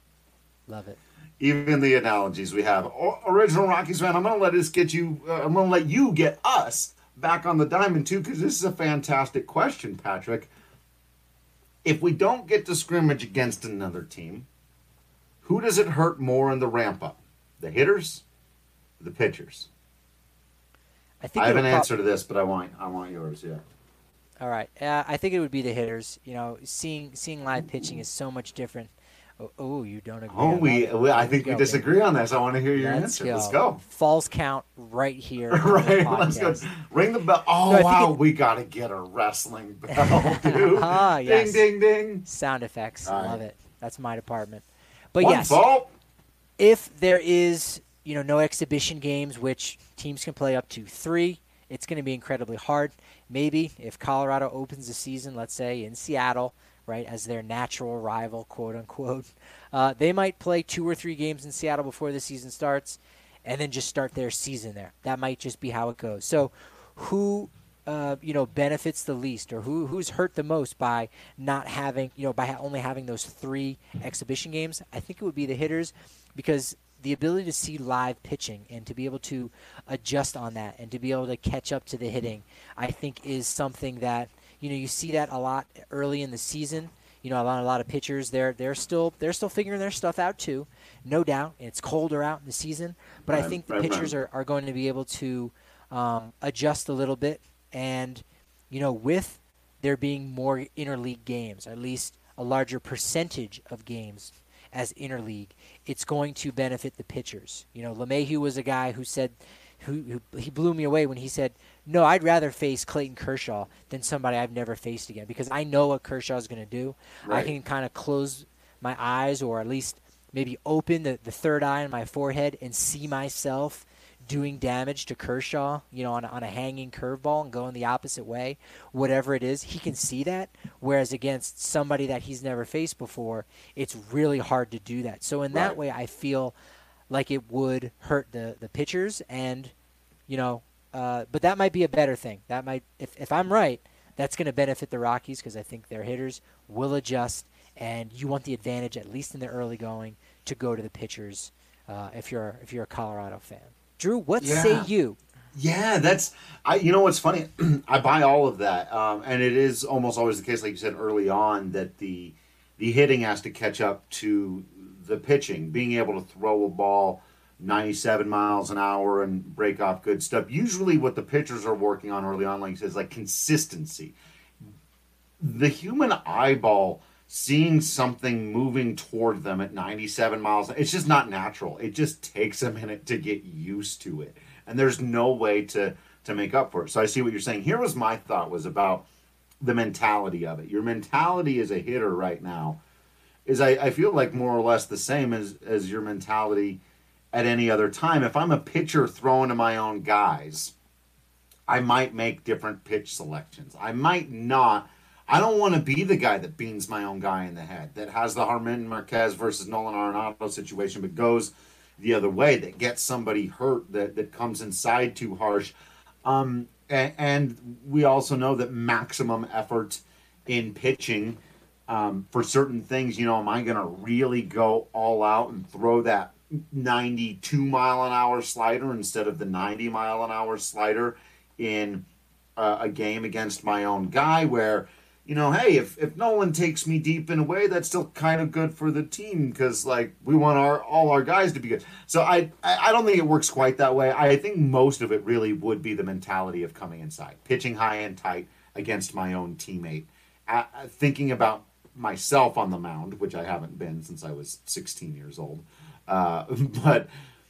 Speaker 4: Love it.
Speaker 1: Even the analogies we have. O- Original Rockies fan, I'm going to let this get you, uh, I'm going to let you get us back on the diamond too, because this is a fantastic question, Patrick. If we don't get to scrimmage against another team, who does it hurt more in the ramp up? The hitters, or the pitchers?
Speaker 4: I think
Speaker 1: I have an
Speaker 4: it'll prob-
Speaker 1: answer to this, but I want I want yours, yeah.
Speaker 4: All right. Uh, I think it would be the hitters. You know, seeing seeing live pitching is so much different. Oh, oh you don't agree.
Speaker 1: Oh,
Speaker 4: on
Speaker 1: we,
Speaker 4: that.
Speaker 1: we I
Speaker 4: Here
Speaker 1: think we
Speaker 4: go,
Speaker 1: disagree on this. I want to hear your
Speaker 4: Let's
Speaker 1: answer.
Speaker 4: go.
Speaker 1: Let's go.
Speaker 4: Falls count right here. on the
Speaker 1: Right, let's go.
Speaker 4: podcast.
Speaker 1: Ring the bell. Oh,
Speaker 4: No, I think
Speaker 1: wow,
Speaker 4: it-
Speaker 1: we got to get a wrestling bell, dude.
Speaker 4: Ah, yes.
Speaker 1: Ding, ding, ding.
Speaker 4: Sound effects.
Speaker 1: All right.
Speaker 4: Love it. That's my department. But
Speaker 1: One
Speaker 4: yes,
Speaker 1: fault.
Speaker 4: if there is, you know, no exhibition games, which teams can play up to three, it's going to be incredibly hard. Maybe if Colorado opens the season, let's say in Seattle, right, as their natural rival, quote unquote, uh, they might play two or three games in Seattle before the season starts, and then just start their season there. That might just be how it goes. So, who, uh, you know, benefits the least, or who who's hurt the most by not having, you know, by ha- only having those three exhibition games? I think it would be the hitters, because the ability to see live pitching and to be able to adjust on that and to be able to catch up to the hitting, I think is something that, you know, you see that a lot early in the season. You know, a lot, a lot of pitchers, they're they're still they're still figuring their stuff out too, no doubt. It's colder out in the season, but
Speaker 1: Right,
Speaker 4: I think the
Speaker 1: right,
Speaker 4: pitchers
Speaker 1: right.
Speaker 4: are, are going to be able to um, adjust a little bit, and you know, with there being more interleague games, at least a larger percentage of games as interleague, it's going to benefit the pitchers. You know, LeMahieu was a guy who said, who, who he blew me away when he said, no, I'd rather face Clayton Kershaw than somebody I've never faced again, because I know what Kershaw's going to do.
Speaker 1: Right.
Speaker 4: I can kind of close my eyes, or at least maybe open the, the third eye on my forehead and see myself doing damage to Kershaw, you know, on a, on a hanging curveball and going the opposite way, whatever it is. He can see that, whereas against somebody that he's never faced before, it's really hard to do that. So in that
Speaker 1: Right.
Speaker 4: way, I feel like it would hurt the, the pitchers, and, you know, uh, but that might be a better thing. That might, if, if I'm right, that's going to benefit the Rockies, because I think their hitters will adjust, and you want the advantage, at least in the early going, to go to the pitchers uh, if you're if you're a Colorado fan. Drew, what
Speaker 1: Yeah.
Speaker 4: say you?
Speaker 1: Yeah, that's I. You know what's funny? I buy all of that, um, and it is almost always the case, like you said early on, that the the hitting has to catch up to the pitching. Being able to throw a ball ninety-seven miles an hour and break off good stuff. Usually, what the pitchers are working on early on, like you said, is like consistency. The human eyeball seeing something moving toward them at ninety-seven miles, it's just not natural. It just takes a minute to get used to it. And there's no way to, to make up for it. So I see what you're saying. Here was my thought was about the mentality of it. Your mentality as a hitter right now is, I, I feel like, more or less the same as, as your mentality at any other time. If I'm a pitcher throwing to my own guys, I might make different pitch selections. I might not. I don't want to be the guy that beans my own guy in the head, that has the Germán Márquez versus Nolan Arenado situation, but goes the other way, that gets somebody hurt, that, that comes inside too harsh. Um, and, and we also know that maximum effort in pitching um, for certain things, you know, am I going to really go all out and throw that ninety-two mile an hour slider instead of the ninety mile an hour slider in uh, a game against my own guy where, you know, hey, if, if Nolan takes me deep in a way, that's still kind of good for the team because, like, we want our all our guys to be good. So I, I I don't think it works quite that way. I think most of it really would be the mentality of coming inside, pitching high and tight against my own teammate, uh, thinking about myself on the mound, which I haven't been since I was sixteen years old. Uh, but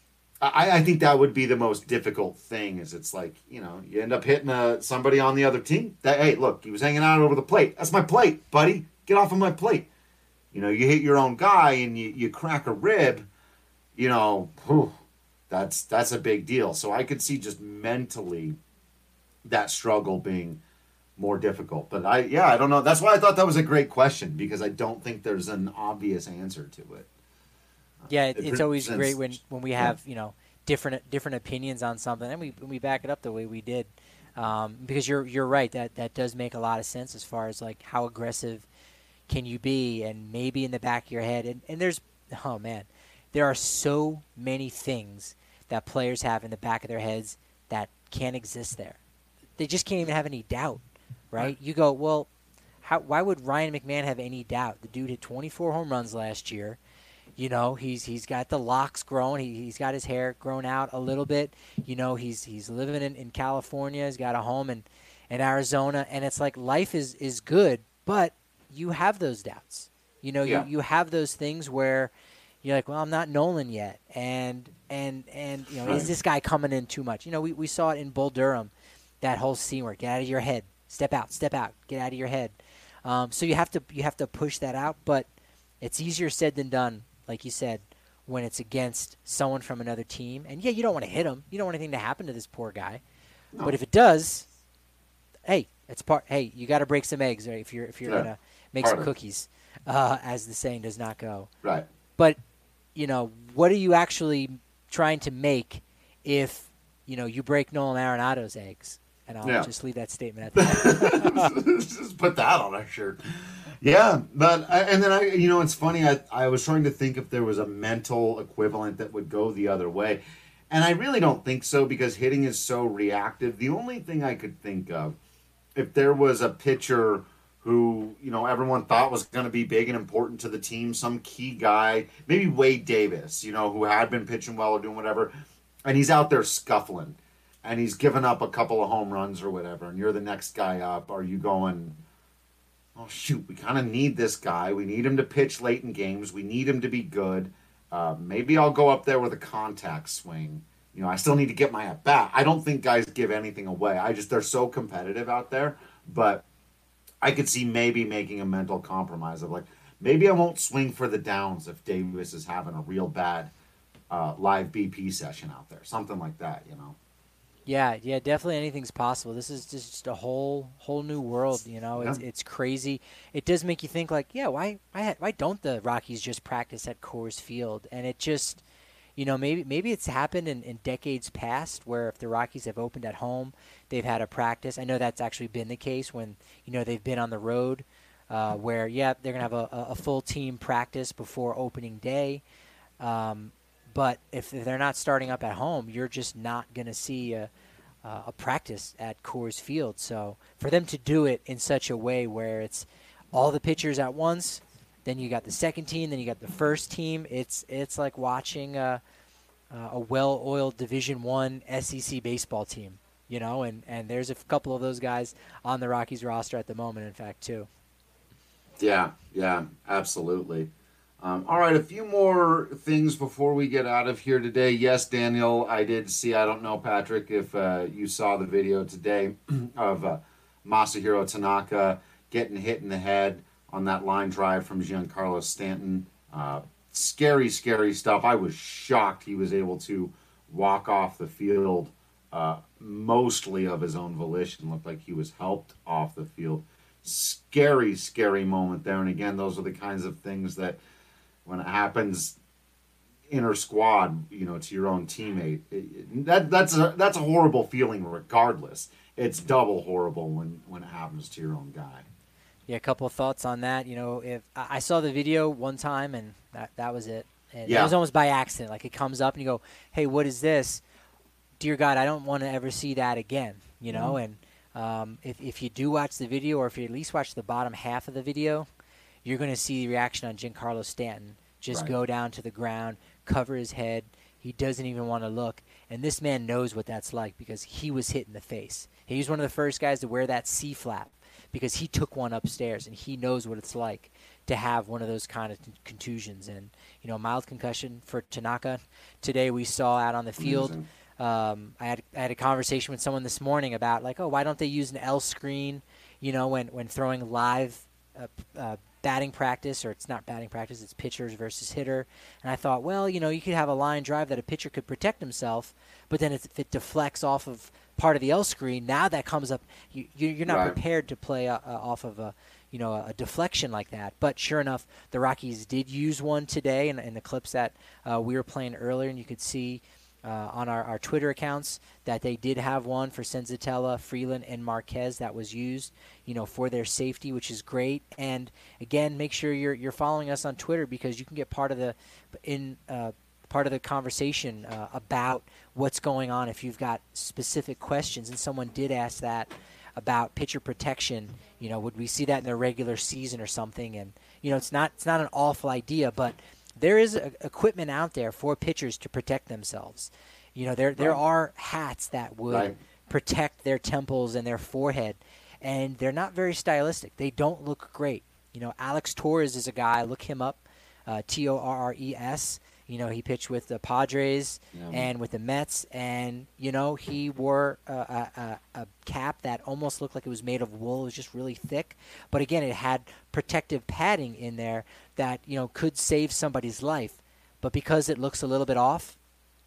Speaker 1: I, I think that would be the most difficult thing. Is it's like, you know, you end up hitting a, somebody on the other team. That hey, look, he was hanging out over the plate. That's my plate, buddy. Get off of my plate. You know, you hit your own guy and you, you crack a rib. You know, whew, that's that's a big deal. So I could see just mentally that struggle being more difficult. But I, yeah, I don't know. That's why I thought that was a great question, because I don't think there's an obvious answer to it.
Speaker 4: Yeah, it,
Speaker 1: It
Speaker 4: it's always
Speaker 1: presents-
Speaker 4: great when, when we have, you know, different different opinions on something, and we we back it up the way we did, um, because you're you're right, that that does make a lot of sense as far as like how aggressive can you be, and maybe in the back of your head, and, and there's oh man, there are so many things that players have in the back of their heads that can't exist there. They just can't even have any doubt, right? right. You go, well, how why would Ryan McMahon have any doubt? The dude hit twenty-four home runs last year. You know, he's he's got the locks grown. He, he's got his hair grown out a little bit. You know, he's he's living in, in California. He's got a home in, in Arizona. And it's like life is, is good, but you have those doubts. You know,
Speaker 1: Yeah.
Speaker 4: you, you have those things where you're like, well, I'm not Nolan yet. And, and, and you know,
Speaker 1: Right.
Speaker 4: is this guy coming in too much? You know, we, we saw it in Bull Durham, that whole scene where get out of your head. Step out, step out, get out of your head. Um, so you have to you have to push that out, but it's easier said than done. Like you said, when it's against someone from another team. And, yeah, you don't want to hit him. You don't want anything to happen to this poor guy.
Speaker 1: No.
Speaker 4: But if it does, hey, it's part. Hey, you got to break some eggs, right, if you're if you're
Speaker 1: Yeah.
Speaker 4: going to make
Speaker 1: Part
Speaker 4: some
Speaker 1: of it.
Speaker 4: cookies, uh, as the saying does not go.
Speaker 1: Right.
Speaker 4: But, you know, what are you actually trying to make if, you know, you break Nolan Arenado's eggs? And I'll
Speaker 1: Yeah.
Speaker 4: just leave that statement at that.
Speaker 1: Just put that on our shirt. Yeah, but I, and then I, you know, it's funny. I I was trying to think if there was a mental equivalent that would go the other way, and I really don't think so, because hitting is so reactive. The only thing I could think of, if there was a pitcher who, you know, everyone thought was going to be big and important to the team, some key guy, maybe Wade Davis, you know, who had been pitching well or doing whatever, and he's out there scuffling, and he's given up a couple of home runs or whatever, and you're the next guy up. Are you going, oh, shoot, we kind of need this guy. We need him to pitch late in games. We need him to be good. Uh, maybe I'll go up there with a contact swing. You know, I still need to get my at-bat. I don't think guys give anything away. I just, they're so competitive out there, but I could see maybe making a mental compromise of like, maybe I won't swing for the downs if Davis is having a real bad uh, live B P session out there. Something like that, you know?
Speaker 4: Yeah, yeah, definitely anything's possible. This is just a whole whole new world, you know? It's
Speaker 1: Yeah.
Speaker 4: it's crazy. It does make you think like, yeah, why why why don't the Rockies just practice at Coors Field? And it just, you know, maybe maybe it's happened in, in decades past where if the Rockies have opened at home, they've had a practice. I know that's actually been the case when, you know, they've been on the road uh, where, yeah, they're going to have a, a full team practice before opening day. Um, but if they're not starting up at home, you're just not going to see a, a practice at Coors Field. So for them to do it in such a way where it's all the pitchers at once, then you got the second team, then you got the first team. It's it's like watching a, a well-oiled Division One S E C baseball team, you know. And, and there's a couple of those guys on the Rockies roster at the moment, in fact, too.
Speaker 1: Yeah, yeah, absolutely. Um, all right, a few more things before we get out of here today. Yes, Daniel, I did see, I don't know, Patrick, if uh, you saw the video today of uh, Masahiro Tanaka getting hit in the head on that line drive from Giancarlo Stanton. Uh, scary, scary stuff. I was shocked he was able to walk off the field uh, mostly of his own volition. Looked like he was helped off the field. Scary, scary moment there. And again, those are the kinds of things that when it happens inter squad, you know, to your own teammate, it, that that's a that's a horrible feeling regardless. It's double horrible when, when it happens to your own guy.
Speaker 4: Yeah, a couple of thoughts on that. You know, if I saw the video one time and that that was it. And
Speaker 1: yeah.
Speaker 4: It was almost by accident. Like it comes up and you go, "Hey, what is this?" Dear God, I don't want to ever see that again. You know, mm-hmm. and um, if if you do watch the video, or if you at least watch the bottom half of the video, you're going to see the reaction on Giancarlo Stanton. Just
Speaker 1: right.
Speaker 4: go down to the ground, cover his head. He doesn't even want to look. And this man knows what that's like because he was hit in the face. He was one of the first guys to wear that C-flap because he took one upstairs, and he knows what it's like to have one of those kind of contusions. And, you know, mild concussion for Tanaka. Today we saw out on the field. Um, I had I had a conversation with someone this morning about, like, oh, why don't they use an L screen, you know, when, when throwing live uh, uh, batting practice, or it's not batting practice, it's pitchers versus hitter. And I thought, well, you know, you could have a line drive that a pitcher could protect himself, but then if it deflects off of part of the L screen, now that comes up, you, you're not
Speaker 1: right.
Speaker 4: prepared to play uh, off of a, you know, a deflection like that. But sure enough, the Rockies did use one today in, in the clips that uh, we were playing earlier, and you could see uh, on our, our Twitter accounts that they did have one for Senzatella, Freeland, and Marquez that was used, you know, for their safety, which is great. And again, make sure you're you're following us on Twitter because you can get part of the in uh, part of the conversation uh, about what's going on if you've got specific questions. And someone did ask that about pitcher protection. You know, would we see that in the regular season or something? And you know, it's not it's not an awful idea, but there is a, equipment out there for pitchers to protect themselves. You know, there there
Speaker 1: right.
Speaker 4: are hats that would
Speaker 1: right.
Speaker 4: protect their temples and their forehead, and they're not very stylistic. They don't look great. You know, Alex Torres is a guy. Look him up, uh, T O R R E S. You know, he pitched with the Padres yeah. and with the Mets, and, you know, he wore a, a, a cap that almost looked like it was made of wool. It was just really thick. But, again, it had protective padding in there that, you know, could save somebody's life. But because it looks a little bit off,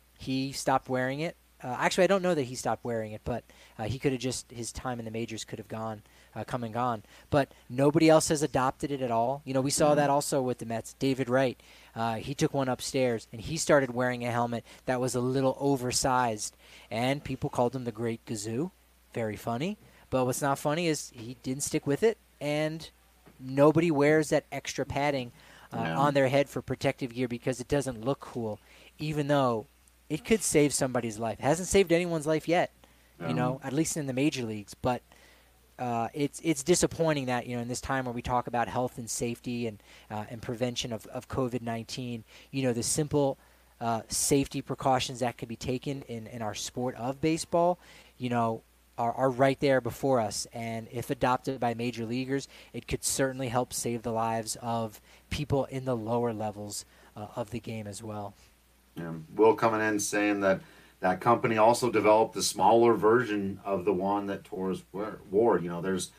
Speaker 4: he stopped wearing it. Uh, actually, I don't know that he stopped wearing it, but uh, he could have just, his time in the majors could have gone, uh, come and gone. But nobody else has adopted it at all. You know, we saw that also with the Mets. David Wright, uh, he took one upstairs, and he started wearing a helmet that was a little oversized. And people called him the Great Gazoo. Very funny. But what's not funny is he didn't stick with it, and nobody wears that extra padding uh, no. on their head for protective gear because it doesn't look cool, even though it could save somebody's life. It hasn't saved anyone's life yet, you
Speaker 1: um,
Speaker 4: know, at least in the major leagues. But uh, it's it's disappointing that, you know, in this time where we talk about health and safety and uh, and prevention of, of COVID nineteen, you know, the simple uh, safety precautions that could be taken in, in our sport of baseball, you know, are, are right there before us. And if adopted by major leaguers, it could certainly help save the lives of people in the lower levels uh, of the game as well.
Speaker 1: Yeah. Will coming in saying that that company also developed a smaller version of the one that Torres wore. You know, there's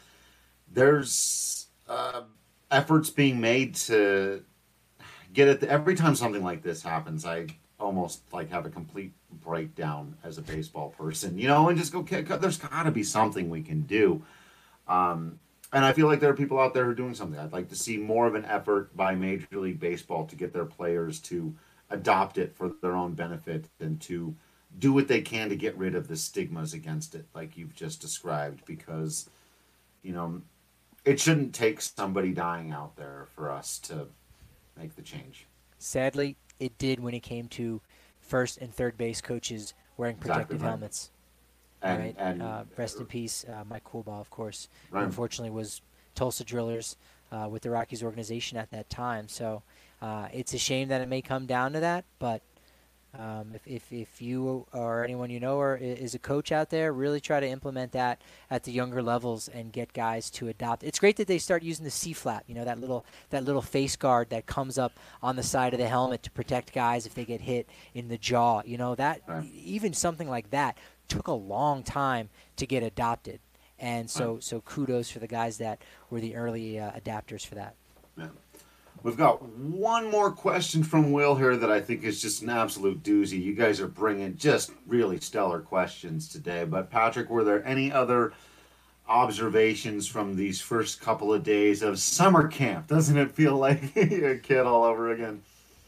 Speaker 1: there's uh, efforts being made to get it. Every time something like this happens, I almost like have a complete breakdown as a baseball person, you know, and just go, okay, there's got to be something we can do. Um, and I feel like there are people out there who are doing something. I'd like to see more of an effort by Major League Baseball to get their players to adopt it for their own benefit and to do what they can to get rid of the stigmas against it, like you've just described, because, you know, it shouldn't take somebody dying out there for us to make the change.
Speaker 4: Sadly, it did when it came to first and third base coaches wearing protective
Speaker 1: Exactly right.
Speaker 4: helmets.
Speaker 1: And,
Speaker 4: right?
Speaker 1: and
Speaker 4: uh, rest in peace, uh, Mike Coolbaugh, of course.
Speaker 1: Right.
Speaker 4: Unfortunately, was Tulsa Drillers uh, with the Rockies organization at that time. So uh, it's a shame that it may come down to that, but Um, if, if if you or anyone you know or is a coach out there, really try to implement that at the younger levels and get guys to adopt. It's great that they start using the C-flap, you know, that little that little face guard that comes up on the side of the helmet to protect guys if they get hit in the jaw. You know, that
Speaker 1: Right.
Speaker 4: even something like that took a long time to get adopted. And so,
Speaker 1: Right.
Speaker 4: so kudos for the guys that were the early uh, adapters for that.
Speaker 1: Yeah. We've got one more question from Will here that I think is just an absolute doozy. You guys are bringing just really stellar questions today. But Patrick, were there any other observations from these first couple of days of summer camp? Doesn't it feel like a kid all over again?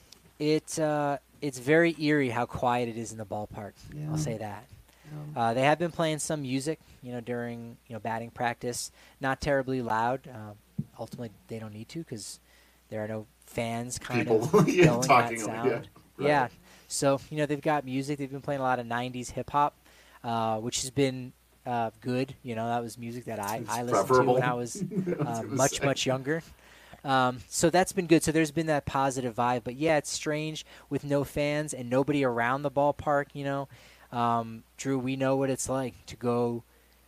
Speaker 4: It's uh, it's very eerie how quiet it is in the ballpark.
Speaker 1: Yeah.
Speaker 4: I'll say that.
Speaker 1: Yeah.
Speaker 4: Uh, they have been playing some music, you know, during you know batting practice. Not terribly loud. Uh, ultimately, they don't need to because there are no fans kind
Speaker 1: People
Speaker 4: of
Speaker 1: yeah,
Speaker 4: going
Speaker 1: talking
Speaker 4: that
Speaker 1: over-
Speaker 4: sound.
Speaker 1: yeah, right.
Speaker 4: Yeah. So, you know, they've got music. They've been playing a lot of nineties hip-hop, uh, which has been uh, good. You know, that was music that I,
Speaker 1: It's
Speaker 4: I listened
Speaker 1: preferable.
Speaker 4: to when I was
Speaker 1: I was
Speaker 4: uh,
Speaker 1: gonna
Speaker 4: much,
Speaker 1: say.
Speaker 4: much younger. Um, so that's been good. So there's been that positive vibe. But, yeah, it's strange with no fans and nobody around the ballpark, you know. Um, Drew, we know what it's like to go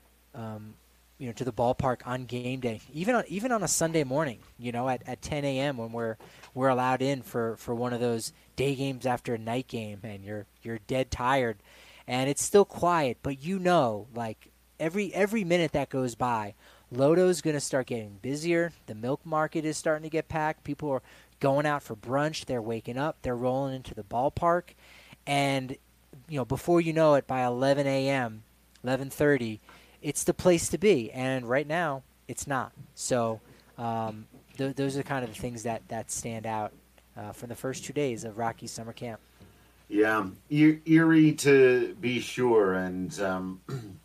Speaker 4: um, – you know, to the ballpark on game day, even on even on a Sunday morning, you know, at, at ten a.m. when we're we're allowed in for, for one of those day games after a night game, and you're you're dead tired, and it's still quiet, but you know, like every every minute that goes by, Lodo's gonna start getting busier. The milk market is starting to get packed. People are going out for brunch. They're waking up. They're rolling into the ballpark, and you know, before you know it, by eleven a.m., eleven thirty. It's the place to be, and right now it's not. So um, th- those are kind of the things that, that stand out uh, from the first two days of Rockies summer camp.
Speaker 1: Yeah, e- eerie to be sure, and um,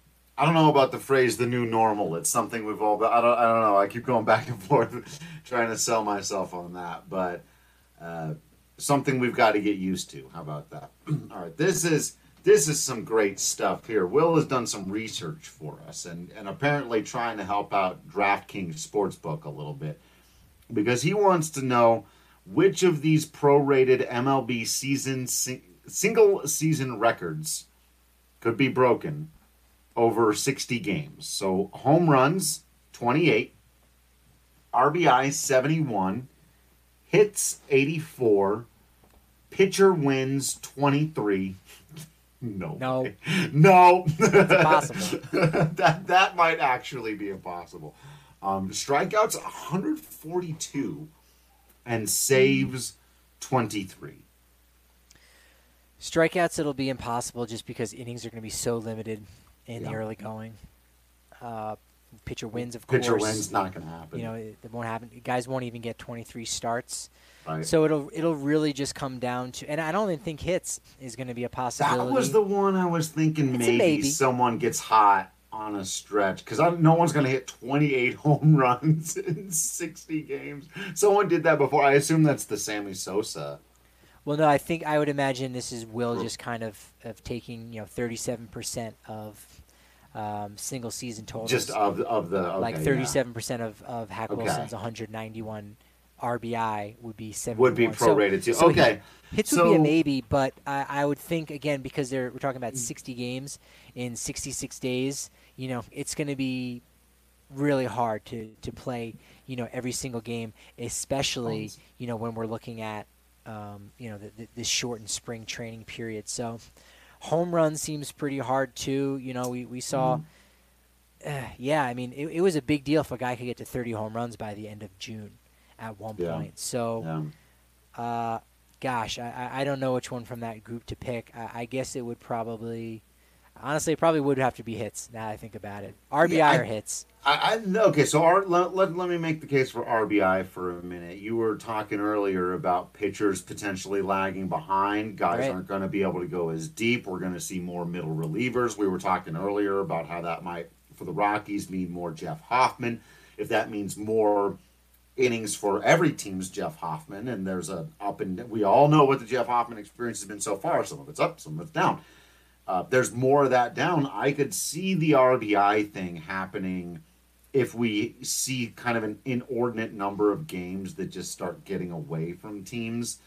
Speaker 1: I don't know about the phrase "the new normal." It's something we've all. I don't. I don't know. I keep going back and forth, trying to sell myself on that, but uh, something we've got to get used to. How about that? All right, this is. This is some great stuff here. Will has done some research for us and, and apparently trying to help out DraftKings Sportsbook a little bit because he wants to know which of these prorated M L B season sing, single season records could be broken over sixty games. So home runs, twenty-eight, R B I, seventy-one, hits, eighty-four, pitcher wins, twenty-three. No.
Speaker 4: No.
Speaker 1: way. No.
Speaker 4: It's impossible.
Speaker 1: that that might actually be impossible. Um, strikeouts one hundred forty-two and saves twenty-three.
Speaker 4: Strikeouts, it'll be impossible just because innings are going to be so limited in
Speaker 1: Yeah.
Speaker 4: the early going. Uh, pitcher wins, of course.
Speaker 1: Pitcher wins, not going to happen.
Speaker 4: You know, it, it won't happen. Guys won't even get twenty-three starts.
Speaker 1: right?
Speaker 4: So it'll it'll really just come down to, and I don't even think hits is going to be a possibility.
Speaker 1: That was the one I was thinking
Speaker 4: It's a
Speaker 1: maybe,
Speaker 4: maybe.
Speaker 1: someone gets hot on a stretch because no one's going to hit twenty-eight home runs in sixty games. Someone did that before. I assume that's the Sammy Sosa.
Speaker 4: Well, no, I think I would imagine this is Will just kind of, of taking, you know, thirty-seven percent of um, single season totals.
Speaker 1: Just of of the okay,
Speaker 4: like thirty-seven percent
Speaker 1: yeah.
Speaker 4: of of Hack
Speaker 1: Okay.
Speaker 4: Wilson's one hundred ninety-one R B I would be seventy-one.
Speaker 1: Would be prorated too.
Speaker 4: So
Speaker 1: Okay.
Speaker 4: Hits
Speaker 1: so,
Speaker 4: would be a maybe, but I, I would think, again, because they're, we're talking about sixty games in sixty-six days, you know, it's going to be really hard to, to play, you know, every single game, especially, you know, when we're looking at, um, you know, the, the, this shortened spring training period. So home run seems pretty hard, too. You know, we, we saw, mm. uh, yeah, I mean, it, it was a big deal if a guy could get to thirty home runs by the end of June at one
Speaker 1: yeah.
Speaker 4: point. So, yeah. uh, Gosh, I, I don't know which one from that group to pick. I, I guess it would probably, honestly, it probably would have to be hits now that I think about it. R B I
Speaker 1: yeah, I,
Speaker 4: or hits?
Speaker 1: I, I Okay, so our, let, let, let me make the case for R B I for a minute. You were talking earlier about pitchers potentially lagging behind. Guys right. aren't going to be able to go as deep. We're going to see more middle relievers. We were talking earlier about how that might, for the Rockies, mean more Jeff Hoffman. If that means more innings for every team's Jeff Hoffman, and there's a up and we all know what the Jeff Hoffman experience has been so far. Some of it's up, some of it's down. Uh, there's more of that down. I could see the R B I thing happening if we see kind of an inordinate number of games that just start getting away from teams,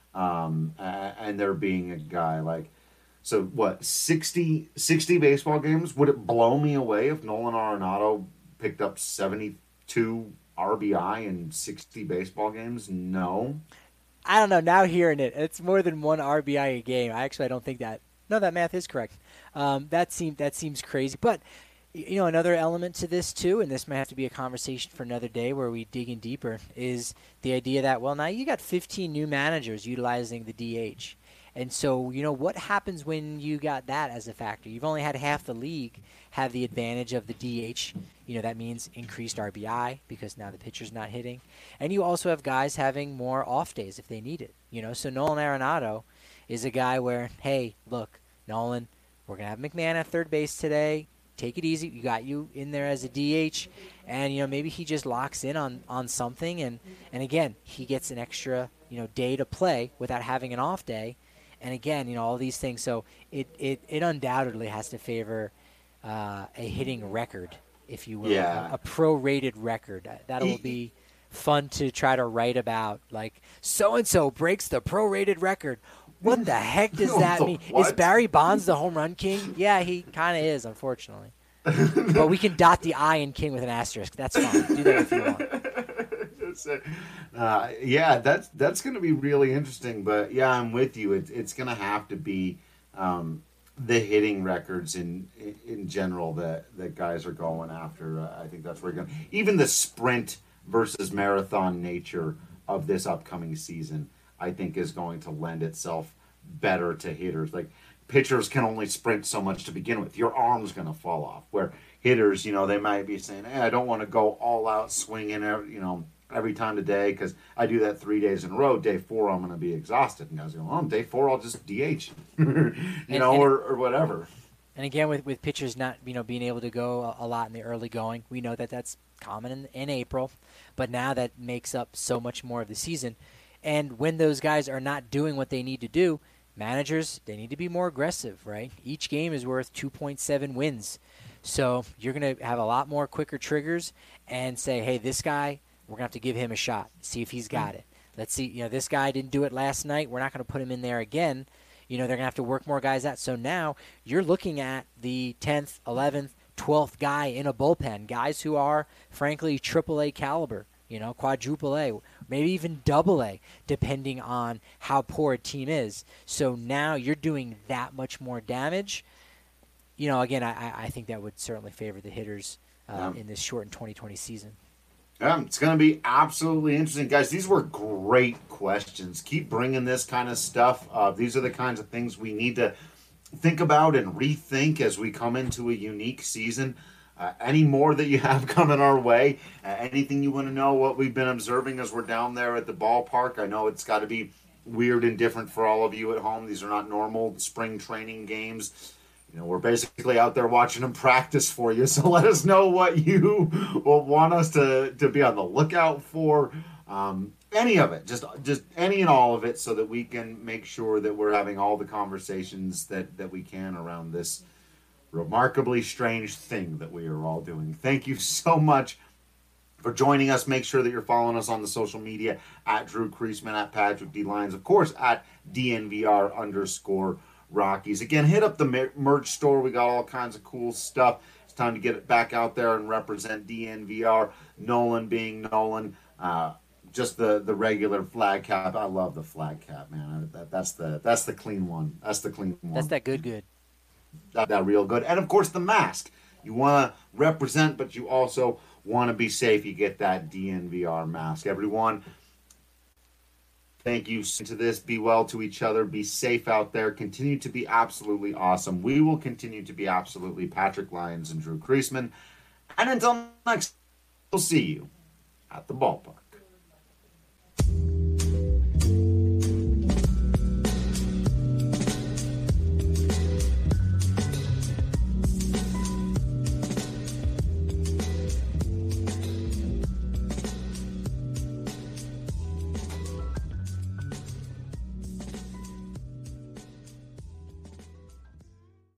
Speaker 1: um, and there being a guy like, so what, sixty, sixty baseball games? Would it blow me away if Nolan Arenado picked up seventy-two R B I in sixty baseball games? No.
Speaker 4: I don't know. Now hearing it, it's more than one R B I a game. I actually I don't think that. No, that math is correct. Um, that seems that seems crazy. But you know, another element to this too, and this might have to be a conversation for another day where we dig in deeper, is the idea that well, now you got fifteen new managers utilizing the D H. And so, you know, what happens when you got that as a factor? You've only had half the league have the advantage of the D H. You know, that means increased R B I because now the pitcher's not hitting. And you also have guys having more off days if they need it. You know, so Nolan Arenado is a guy where, hey, look, Nolan, we're going to have McMahon at third base today. Take it easy. You got you in there as a D H. And, you know, maybe he just locks in on, on something. And, and, again, he gets an extra, you know, day to play without having an off day. And again, you know, all these things. So it, it, it undoubtedly has to favor uh, a hitting record, if you will,
Speaker 1: yeah.
Speaker 4: a, a prorated record. That will be fun to try to write about. Like, so-and-so breaks the prorated record. What the heck does that mean?
Speaker 1: What?
Speaker 4: Is Barry Bonds the home run king? Yeah, he kind of is, unfortunately. But we can dot the I in king with an asterisk. That's fine. Do that if you want.
Speaker 1: Uh, yeah, that's that's going to be really interesting. But yeah, I'm with you. It, it's going to have to be um, the hitting records in in general that, that guys are going after. Uh, I think that's where you're going. Even the sprint versus marathon nature of this upcoming season, I think, is going to lend itself better to hitters. Like pitchers can only sprint so much to begin with. Your arm's going to fall off. Where hitters, you know, they might be saying, "Hey, I don't want to go all out swinging, you know, every time today because I do that three days in a row. Day four, I'm going to be exhausted." And guys go, "Oh, day four, I'll just D H," you and, know, and, or, or whatever.
Speaker 4: And again, with, with pitchers not, you know, being able to go a, a lot in the early going, we know that that's common in, in April, but now that makes up so much more of the season. And when those guys are not doing what they need to do, managers, they need to be more aggressive, right? Each game is worth two point seven wins. So you're going to have a lot more quicker triggers and say, hey, this guy, we're going to have to give him a shot, see if he's got it. Let's see, you know, this guy didn't do it last night. We're not going to put him in there again. You know, they're going to have to work more guys out. So now you're looking at the tenth, eleventh, twelfth guy in a bullpen, guys who are, frankly, triple A caliber, you know, quadruple A, maybe even double A, depending on how poor a team is. So now you're doing that much more damage. You know, again, I, I think that would certainly favor the hitters uh, yeah. in this shortened twenty twenty season.
Speaker 1: Yeah, it's going to be absolutely interesting. Guys, these were great questions. Keep bringing this kind of stuff. Uh, these are the kinds of things we need to think about and rethink as we come into a unique season. Uh, any more that you have coming our way? Uh, anything you want to know what we've been observing as we're down there at the ballpark? I know it's got to be weird and different for all of you at home. These are not normal spring training games. You know, we're basically out there watching them practice for you. So let us know what you will want us to, to be on the lookout for. Um, any of it, just just any and all of it, so that we can make sure that we're having all the conversations that, that we can around this remarkably strange thing that we are all doing. Thank you so much for joining us. Make sure that you're following us on the social media at Drew Creasman, at Patrick D. Lyons, of course, at D N V R underscore Rockies. Again, hit up the merch store. We got all kinds of cool stuff. It's time to get it back out there and represent D N V R. Nolan being Nolan. Uh, just the, the regular flag cap. I love the flag cap, man. That, that's the that's the clean one. That's the clean one.
Speaker 4: That's that good good.
Speaker 1: That, that real good. And, of course, the mask. You want to represent, but you also want to be safe. You get that D N V R mask. Everyone, thank you to this. Be well to each other. Be safe out there. Continue to be absolutely awesome. We will continue to be absolutely Patrick Lyons and Drew Creasman. And until next, we'll see you at the ballpark.